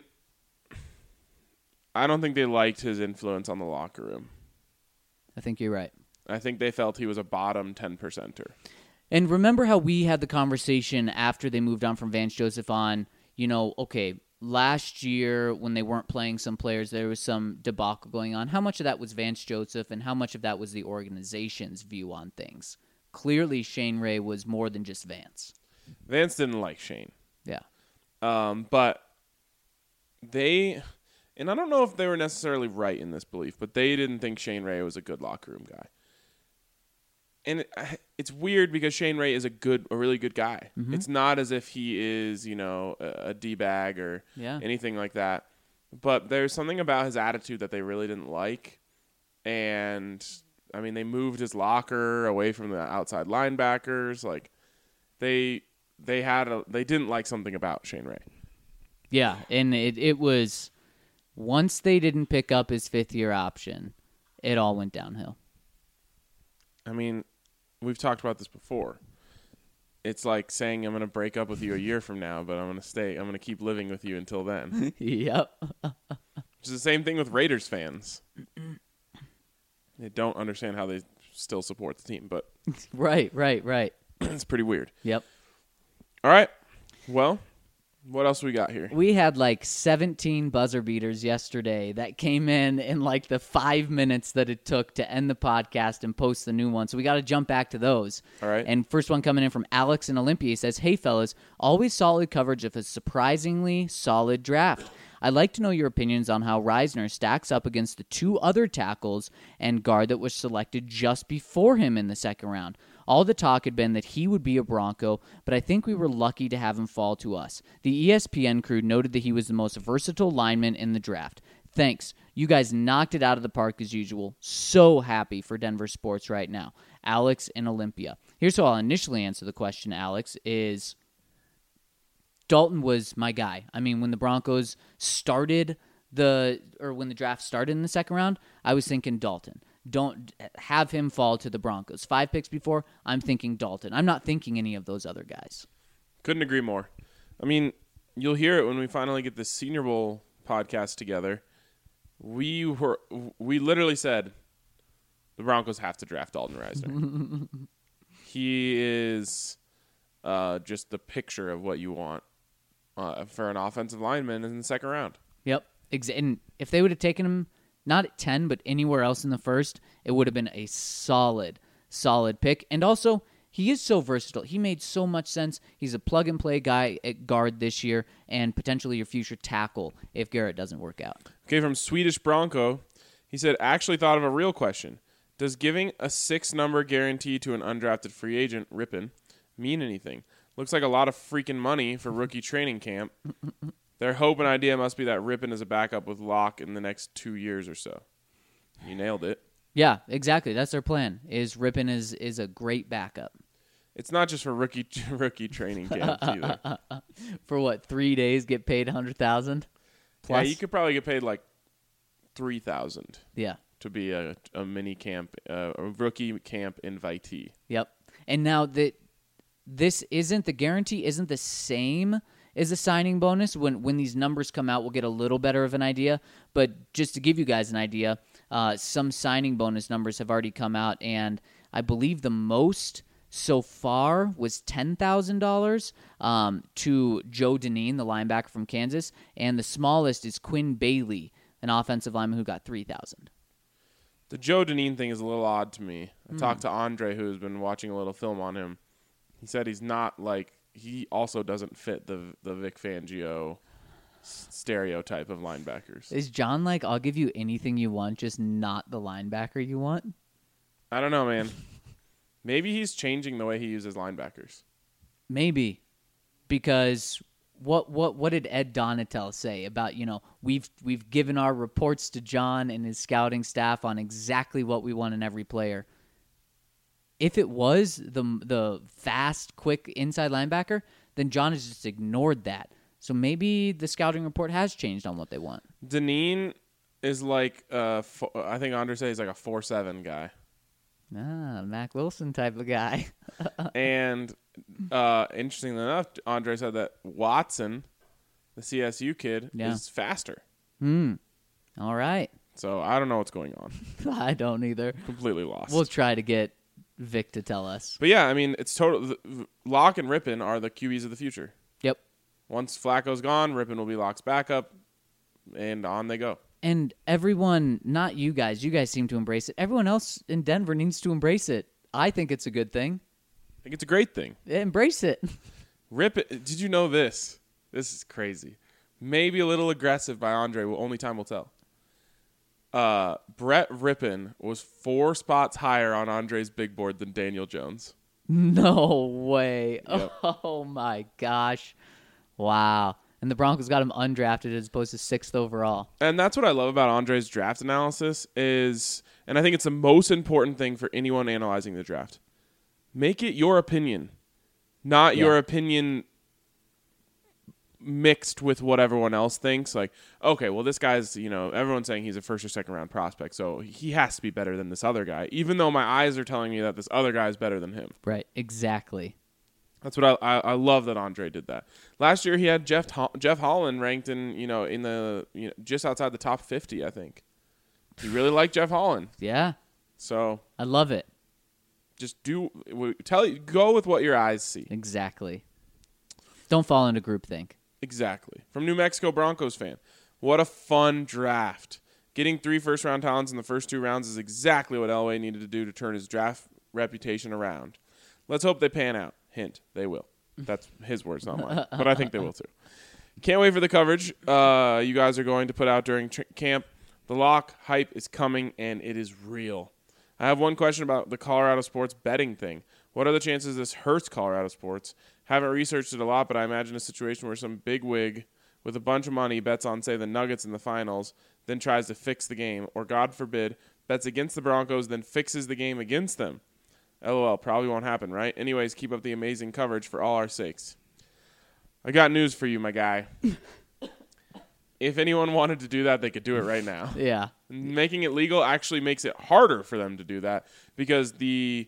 I don't think they liked his influence on the locker room. I think you're right. I think they felt he was a bottom 10%er. And remember how we had the conversation after they moved on from Vance Joseph on, last year when they weren't playing some players, there was some debacle going on. How much of that was Vance Joseph and how much of that was the organization's view on things? Clearly, Shane Ray was more than just Vance. Vance didn't like Shane. Yeah. But they, and I don't know if they were necessarily right in this belief, but they didn't think Shane Ray was a good locker room guy. And it's weird because Shane Ray is a really good guy. Mm-hmm. It's not as if he is, a D-bag or anything like that. But there's something about his attitude that they really didn't like. And, they moved his locker away from the outside linebackers. Like, they didn't like something about Shane Ray. Yeah, and it was, once they didn't pick up his fifth-year option, it all went downhill. We've talked about this before. It's like saying I'm going to break up with you a year from now, but I'm going to stay. I'm going to keep living with you until then. Yep. Which is the same thing with Raiders fans. They don't understand how they still support the team, but Right. it's pretty weird. Yep. All right. Well, What else we got here? We had like 17 buzzer beaters yesterday that came in like the 5 minutes that it took to end the podcast and post the new one. So we got to jump back to those. All right. And first one coming in from Alex in Olympia. He says, "Hey, fellas, always solid coverage of a surprisingly solid draft. I'd like to know your opinions on how Reisner stacks up against the two other tackles and guard that was selected just before him in the second round. All the talk had been that he would be a Bronco, but I think we were lucky to have him fall to us. The ESPN crew noted that he was the most versatile lineman in the draft. Thanks. You guys knocked it out of the park as usual. So happy for Denver sports right now." Alex in Olympia. Here's how I'll initially answer the question, Alex, is Dalton was my guy. I mean, when the Broncos started when the draft started in the second round, I was thinking Dalton. Don't have him fall to the Broncos. 5 picks before, I'm thinking Dalton. I'm not thinking any of those other guys. Couldn't agree more. I mean, you'll hear it when we finally get this Senior Bowl podcast together. We literally said the Broncos have to draft Dalton Reisner. He is just the picture of what you want for an offensive lineman in the second round. Yep. And if they would have taken him not at 10, but anywhere else in the first, it would have been a solid pick. And also, he is so versatile. He made so much sense. He's a plug-and-play guy at guard this year and potentially your future tackle if Garrett doesn't work out. Okay, from Swedish Bronco, he said, actually thought of a real question. Does giving a 6-number guarantee to an undrafted free agent, Rippin, mean anything? Looks like a lot of freaking money for rookie training camp. Their hope and idea must be that Rippin is a backup with Locke in the next 2 years or so. You nailed it. Yeah, exactly. That's their plan. Is Rippin is a great backup. It's not just for rookie training camp either. For what, 3 days get paid $100,000 plus? Yeah, you could probably get paid like $3,000 Yeah. to be a mini camp, a rookie camp invitee. Yep. And now the guarantee isn't the same as a signing bonus. When these numbers come out, we'll get a little better of an idea. But just to give you guys an idea, some signing bonus numbers have already come out, and I believe the most so far was $10,000 to Joe Dineen, the linebacker from Kansas, and the smallest is Quinn Bailey, an offensive lineman who got $3,000. The Joe Dineen thing is a little odd to me. I talked to Andre, who's been watching a little film on him. He said he's not like he also doesn't fit the Vic Fangio stereotype of linebackers. Is John like, I'll give you anything you want, just not the linebacker you want? I don't know, man. Maybe he's changing the way he uses linebackers. Maybe, because what did Ed Donatel say about, we've given our reports to John and his scouting staff on exactly what we want in every player. If it was the fast, quick inside linebacker, then John has just ignored that. So maybe the scouting report has changed on what they want. Dineen is like, I think Andre said he's like a 4'7" guy. Mac Wilson type of guy. And interestingly enough, Andre said that Watson, the CSU kid, is faster. All right. So I don't know what's going on. I don't either. Completely lost. We'll try to get Vic to tell us. But yeah, I mean, it's total. Locke and Rippin are the QBs of the future. Yep. Once Flacco's gone, Rippin will be Locke's backup, and on they go. And everyone, not you guys seem to embrace it. Everyone else in Denver needs to embrace it. I think it's a good thing. I think it's a great thing. Embrace it. Rippin, did you know this? This is crazy. Maybe a little aggressive by Andre. Only time will tell. Brett Rippin was 4 spots higher on Andre's big board than Daniel Jones. No way. Yep. Oh, my gosh. Wow. And the Broncos got him undrafted as opposed to 6th overall. And that's what I love about Andre's draft analysis is, and I think it's the most important thing for anyone analyzing the draft. Make it your opinion, not your opinion mixed with what everyone else thinks. Like, okay, well, this guy's, everyone's saying he's a first or second round prospect, so he has to be better than this other guy, even though my eyes are telling me that this other guy is better than him. Right, exactly. That's what I love that Andre did that. Last year he had Jeff Holland ranked in the just outside the top 50, I think. He really liked Jeff Holland. Yeah. So I love it. Just go with what your eyes see. Exactly. Don't fall into groupthink. Exactly. From New Mexico Broncos fan. What a fun draft. Getting 3 first-round talents in the first 2 rounds is exactly what Elway needed to do to turn his draft reputation around. Let's hope they pan out. Hint, they will. That's his words, not mine. But I think they will too. Can't wait for the coverage you guys are going to put out during camp. The lock hype is coming, and it is real. I have one question about the Colorado sports betting thing. What are the chances this hurts Colorado sports? Haven't researched it a lot, but I imagine a situation where some bigwig with a bunch of money bets on, say, the Nuggets in the finals, then tries to fix the game, or God forbid, bets against the Broncos, then fixes the game against them. LOL, probably won't happen, right? Anyways, keep up the amazing coverage for all our sakes. I got news for you, my guy. If anyone wanted to do that, they could do it right now. Yeah. Making it legal actually makes it harder for them to do that because the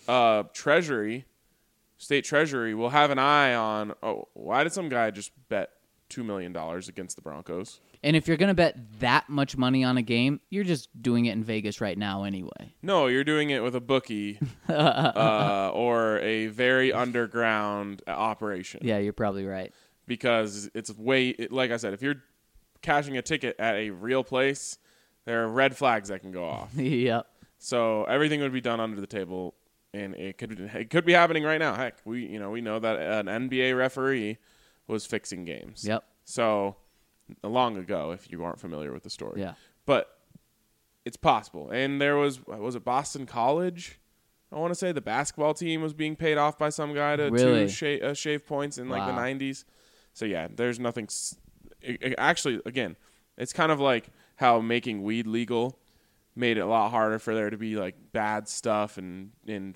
state treasury will have an eye on, why did some guy just bet $2 million against the Broncos? And if you're going to bet that much money on a game, you're just doing it in Vegas right now anyway. No, you're doing it with a bookie or a very underground operation. Yeah, you're probably right. Because it's like I said, if you're cashing a ticket at a real place, there are red flags that can go off. Yep. So everything would be done under the table, and it could be happening right now. Heck, we know that an NBA referee was fixing games. Yep. So long ago, if you aren't familiar with the story. Yeah. But it's possible. And there was it Boston College? I want to say the basketball team was being paid off by some guy to shave points in like the 90s. So yeah, there's nothing. Actually, again, it's kind of like how making weed legal made it a lot harder for there to be like bad stuff and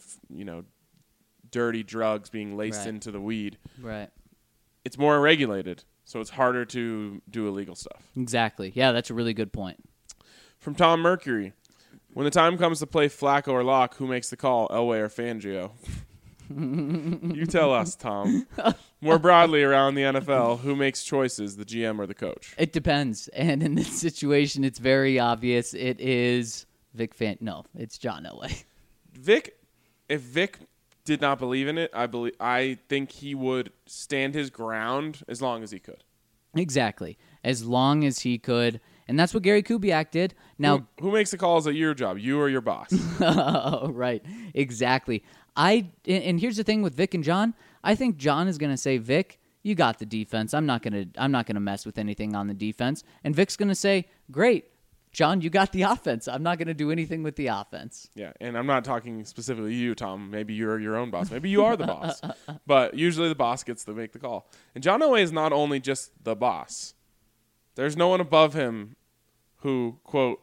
dirty drugs being laced into the weed. Right. It's more regulated, so it's harder to do illegal stuff. Exactly. Yeah, that's a really good point. From Tom Mercury, when the time comes to play Flacco or Locke, who makes the call, Elway or Fangio? You tell us, Tom. More broadly around the NFL, who makes choices, the GM or the coach? It depends. And in this situation, it's very obvious. It is No, it's John Elway. If Vic did not believe in it, I think he would stand his ground as long as he could. Exactly. As long as he could. And that's what Gary Kubiak did. Now, who makes the calls at your job, you or your boss? Right. Exactly. And here's the thing with Vic and John. I think John is going to say, Vic, you got the defense. I'm not going to mess with anything on the defense. And Vic's going to say, great, John, you got the offense. I'm not going to do anything with the offense. Yeah, and I'm not talking specifically you, Tom. Maybe you're your own boss. Maybe you are the boss. But usually the boss gets to make the call. And John Elway is not only just the boss. There's no one above him who, quote,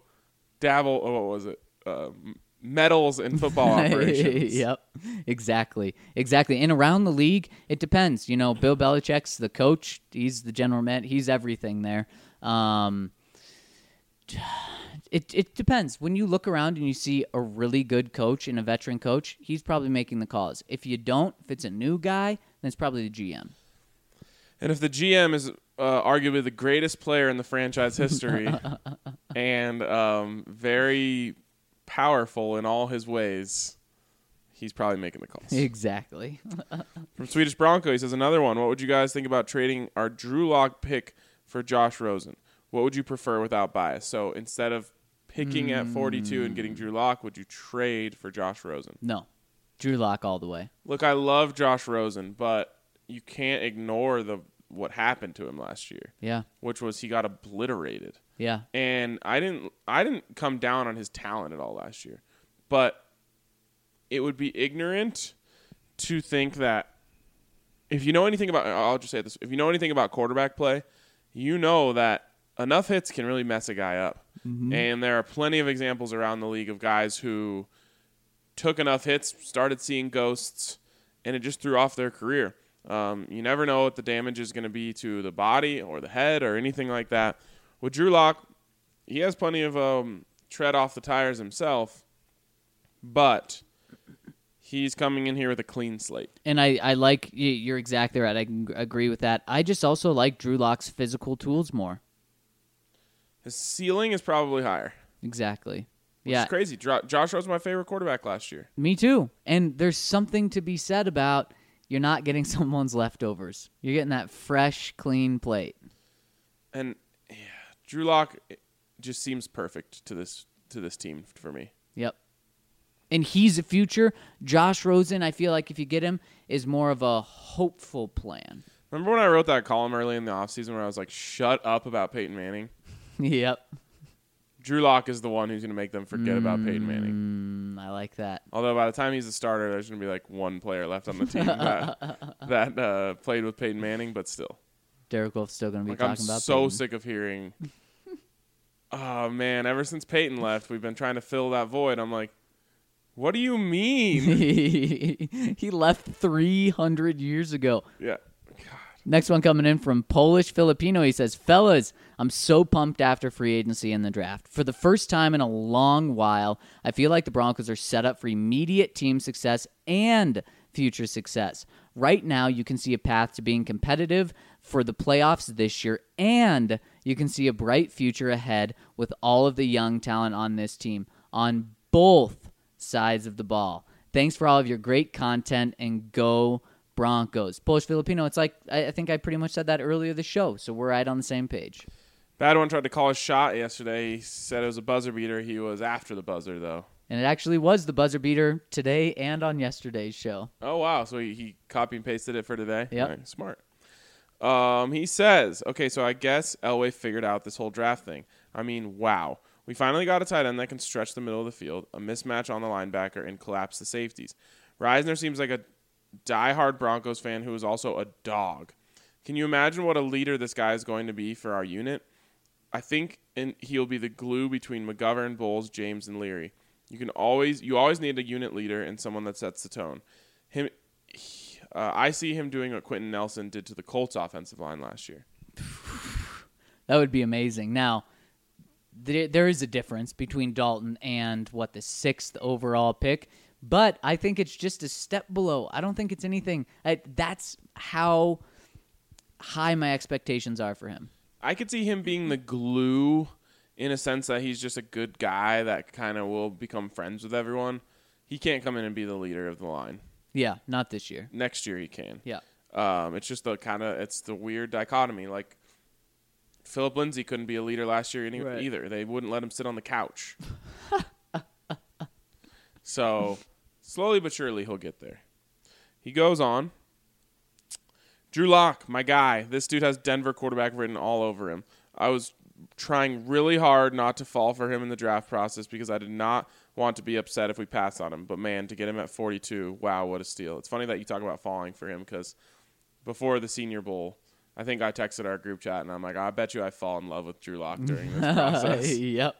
meddles in football operations. Yep, exactly. And around the league, it depends. Bill Belichick's the coach. He's the general manager. He's everything there. It depends. When you look around and you see a really good coach and a veteran coach, he's probably making the calls. If you don't, if it's a new guy, then it's probably the GM. And if the GM is arguably the greatest player in the franchise history and very powerful in all his ways, he's probably making the calls. Exactly. From Swedish Bronco, he says, another one. What would you guys think about trading our Drew Lock pick for Josh Rosen? What would you prefer without bias? So instead of picking at 42 and getting Drew Lock, would you trade for Josh Rosen? No. Drew Lock all the way. Look, I love Josh Rosen, but you can't ignore what happened to him last year. Yeah. Which was he got obliterated. Yeah. And I didn't come down on his talent at all last year. But it would be ignorant to think that if you know anything about, I'll just say this, if you know anything about quarterback play, you know that enough hits can really mess a guy up. Mm-hmm. And there are plenty of examples around the league of guys who took enough hits, started seeing ghosts, and it just threw off their career. You never know what the damage is going to be to the body or the head or anything like that. With Drew Lock, he has plenty of tread off the tires himself, but he's coming in here with a clean slate. And I like, you're exactly right. I can agree with that. I just also like Drew Lock's physical tools more. His ceiling is probably higher. Exactly. Which is crazy. Josh was my favorite quarterback last year. Me too. And there's something to be said about you're not getting someone's leftovers. You're getting that fresh, clean plate. And yeah, Drew Lock just seems perfect to this team for me. Yep. And he's a future. Josh Rosen, I feel like if you get him, is more of a hopeful plan. Remember when I wrote that column early in the offseason where I was like, shut up about Peyton Manning? Yep. Drew Lock is the one who's going to make them forget about Peyton Manning. I like that. Although by the time he's a starter, there's going to be like one player left on the team that played with Peyton Manning, but still. Derek Wolf's still going to be Like, talking I'm about so Peyton. sick of hearing, oh, man, ever since Peyton left, we've been trying to fill that void. I'm like, what do you mean? He left 300 years ago. Yeah. Next one coming in from Polish Filipino. He says, fellas, I'm so pumped after free agency and the draft. For the first time in a long while, I feel like the Broncos are set up for immediate team success and future success. Right now, you can see a path to being competitive for the playoffs this year, and you can see a bright future ahead with all of the young talent on this team on both sides of the ball. Thanks for all of your great content, and go Broncos. Polish Filipino, it's like, I think I pretty much said that earlier this show, so we're right on the same page. Bad one tried to call his shot yesterday. He said it was a buzzer beater. He was after the buzzer, though. And it actually was the buzzer beater today and on yesterday's show. Oh, wow. So he copy and pasted it for today? Yep. Right, smart. He says, okay, so I guess Elway figured out this whole draft thing. I mean, wow. We finally got a tight end that can stretch the middle of the field, a mismatch on the linebacker, and collapse the safeties. Reisner seems like a diehard Broncos fan who is also a dog. Can you imagine what a leader this guy is going to be for our unit? I think he'll be the glue between McGovern, Bowles, James, and Leary. You always need a unit leader and someone that sets the tone. I see him doing what Quentin Nelson did to the Colts offensive line last year. That would be amazing. Now, there is a difference between Dalton and, the 6th overall pick, but I think it's just a step below. I don't think it's anything. That's how high my expectations are for him. I could see him being the glue in a sense that he's just a good guy that kind of will become friends with everyone. He can't come in and be the leader of the line. Yeah, not this year. Next year he can. Yeah. It's just it's the weird dichotomy. Like, Philip Lindsay couldn't be a leader last year either. They wouldn't let him sit on the couch. So, slowly but surely he'll get there. He goes on. Drew Lock, my guy. This dude has Denver quarterback written all over him. I was trying really hard not to fall for him in the draft process because I did not want to be upset if we passed on him. But, man, to get him at 42, wow, what a steal. It's funny that you talk about falling for him because before the Senior Bowl, I think I texted our group chat, and I'm like, I bet you I fall in love with Drew Lock during this process. Yep.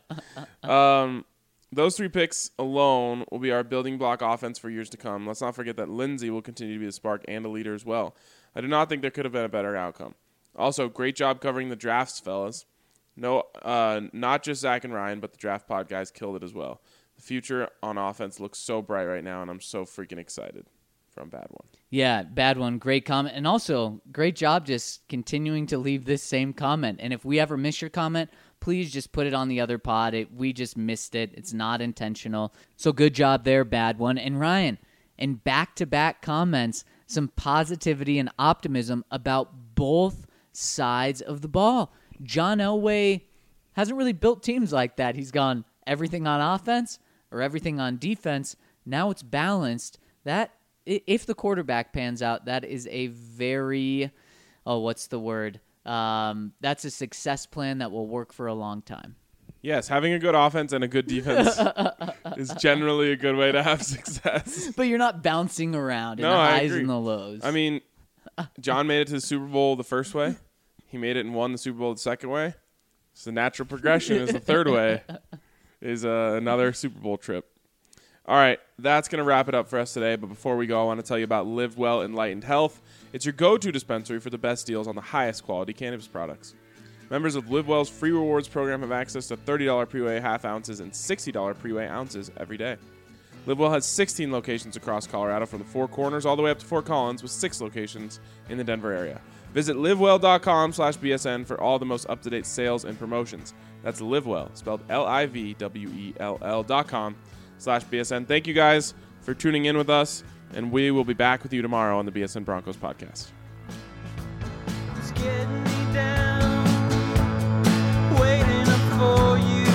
Those 3 picks alone will be our building block offense for years to come. Let's not forget that Lindsay will continue to be the spark and a leader as well. I do not think there could have been a better outcome. Also, great job covering the drafts, fellas. No, not just Zach and Ryan, but the Draft Pod guys killed it as well. The future on offense looks so bright right now, and I'm so freaking excited. From Bad One. Yeah, Bad One. Great comment. And also, great job just continuing to leave this same comment. And if we ever miss your comment, please just put it on the other pod. We just missed it. It's not intentional. So good job there, Bad One. And Ryan, in back-to-back comments, some positivity and optimism about both sides of the ball. John Elway hasn't really built teams like that. He's gone everything on offense or everything on defense. Now it's balanced. That, if the quarterback pans out, that is a very, what's the word? That's a success plan that will work for a long time. Yes, having a good offense and a good defense is generally a good way to have success. But you're not bouncing around in the I highs agree. and the lows. I mean, John made it to the Super Bowl the first way. He made it and won the Super Bowl the second way. So the natural progression is the third way is another Super Bowl trip. All right, that's going to wrap it up for us today. But before we go, I want to tell you about Live Well Enlightened Health. It's your go-to dispensary for the best deals on the highest quality cannabis products. Members of Live Well's free rewards program have access to $30 pre-weigh half ounces and $60 pre-weigh ounces every day. Live Well has 16 locations across Colorado from the Four Corners all the way up to Fort Collins with 6 locations in the Denver area. Visit livewell.com/BSN for all the most up-to-date sales and promotions. That's LiveWell, spelled LIVWELL.com/BSN. Thank you guys for tuning in with us. And we will be back with you tomorrow on the BSN Broncos podcast. It's getting me down, waiting up for you.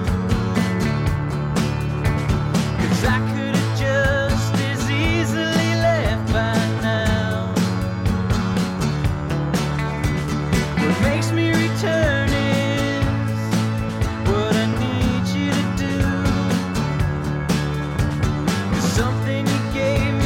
'Cause I could have just as easily left by now. What makes me return is what I need you to do. 'Cause something you gave me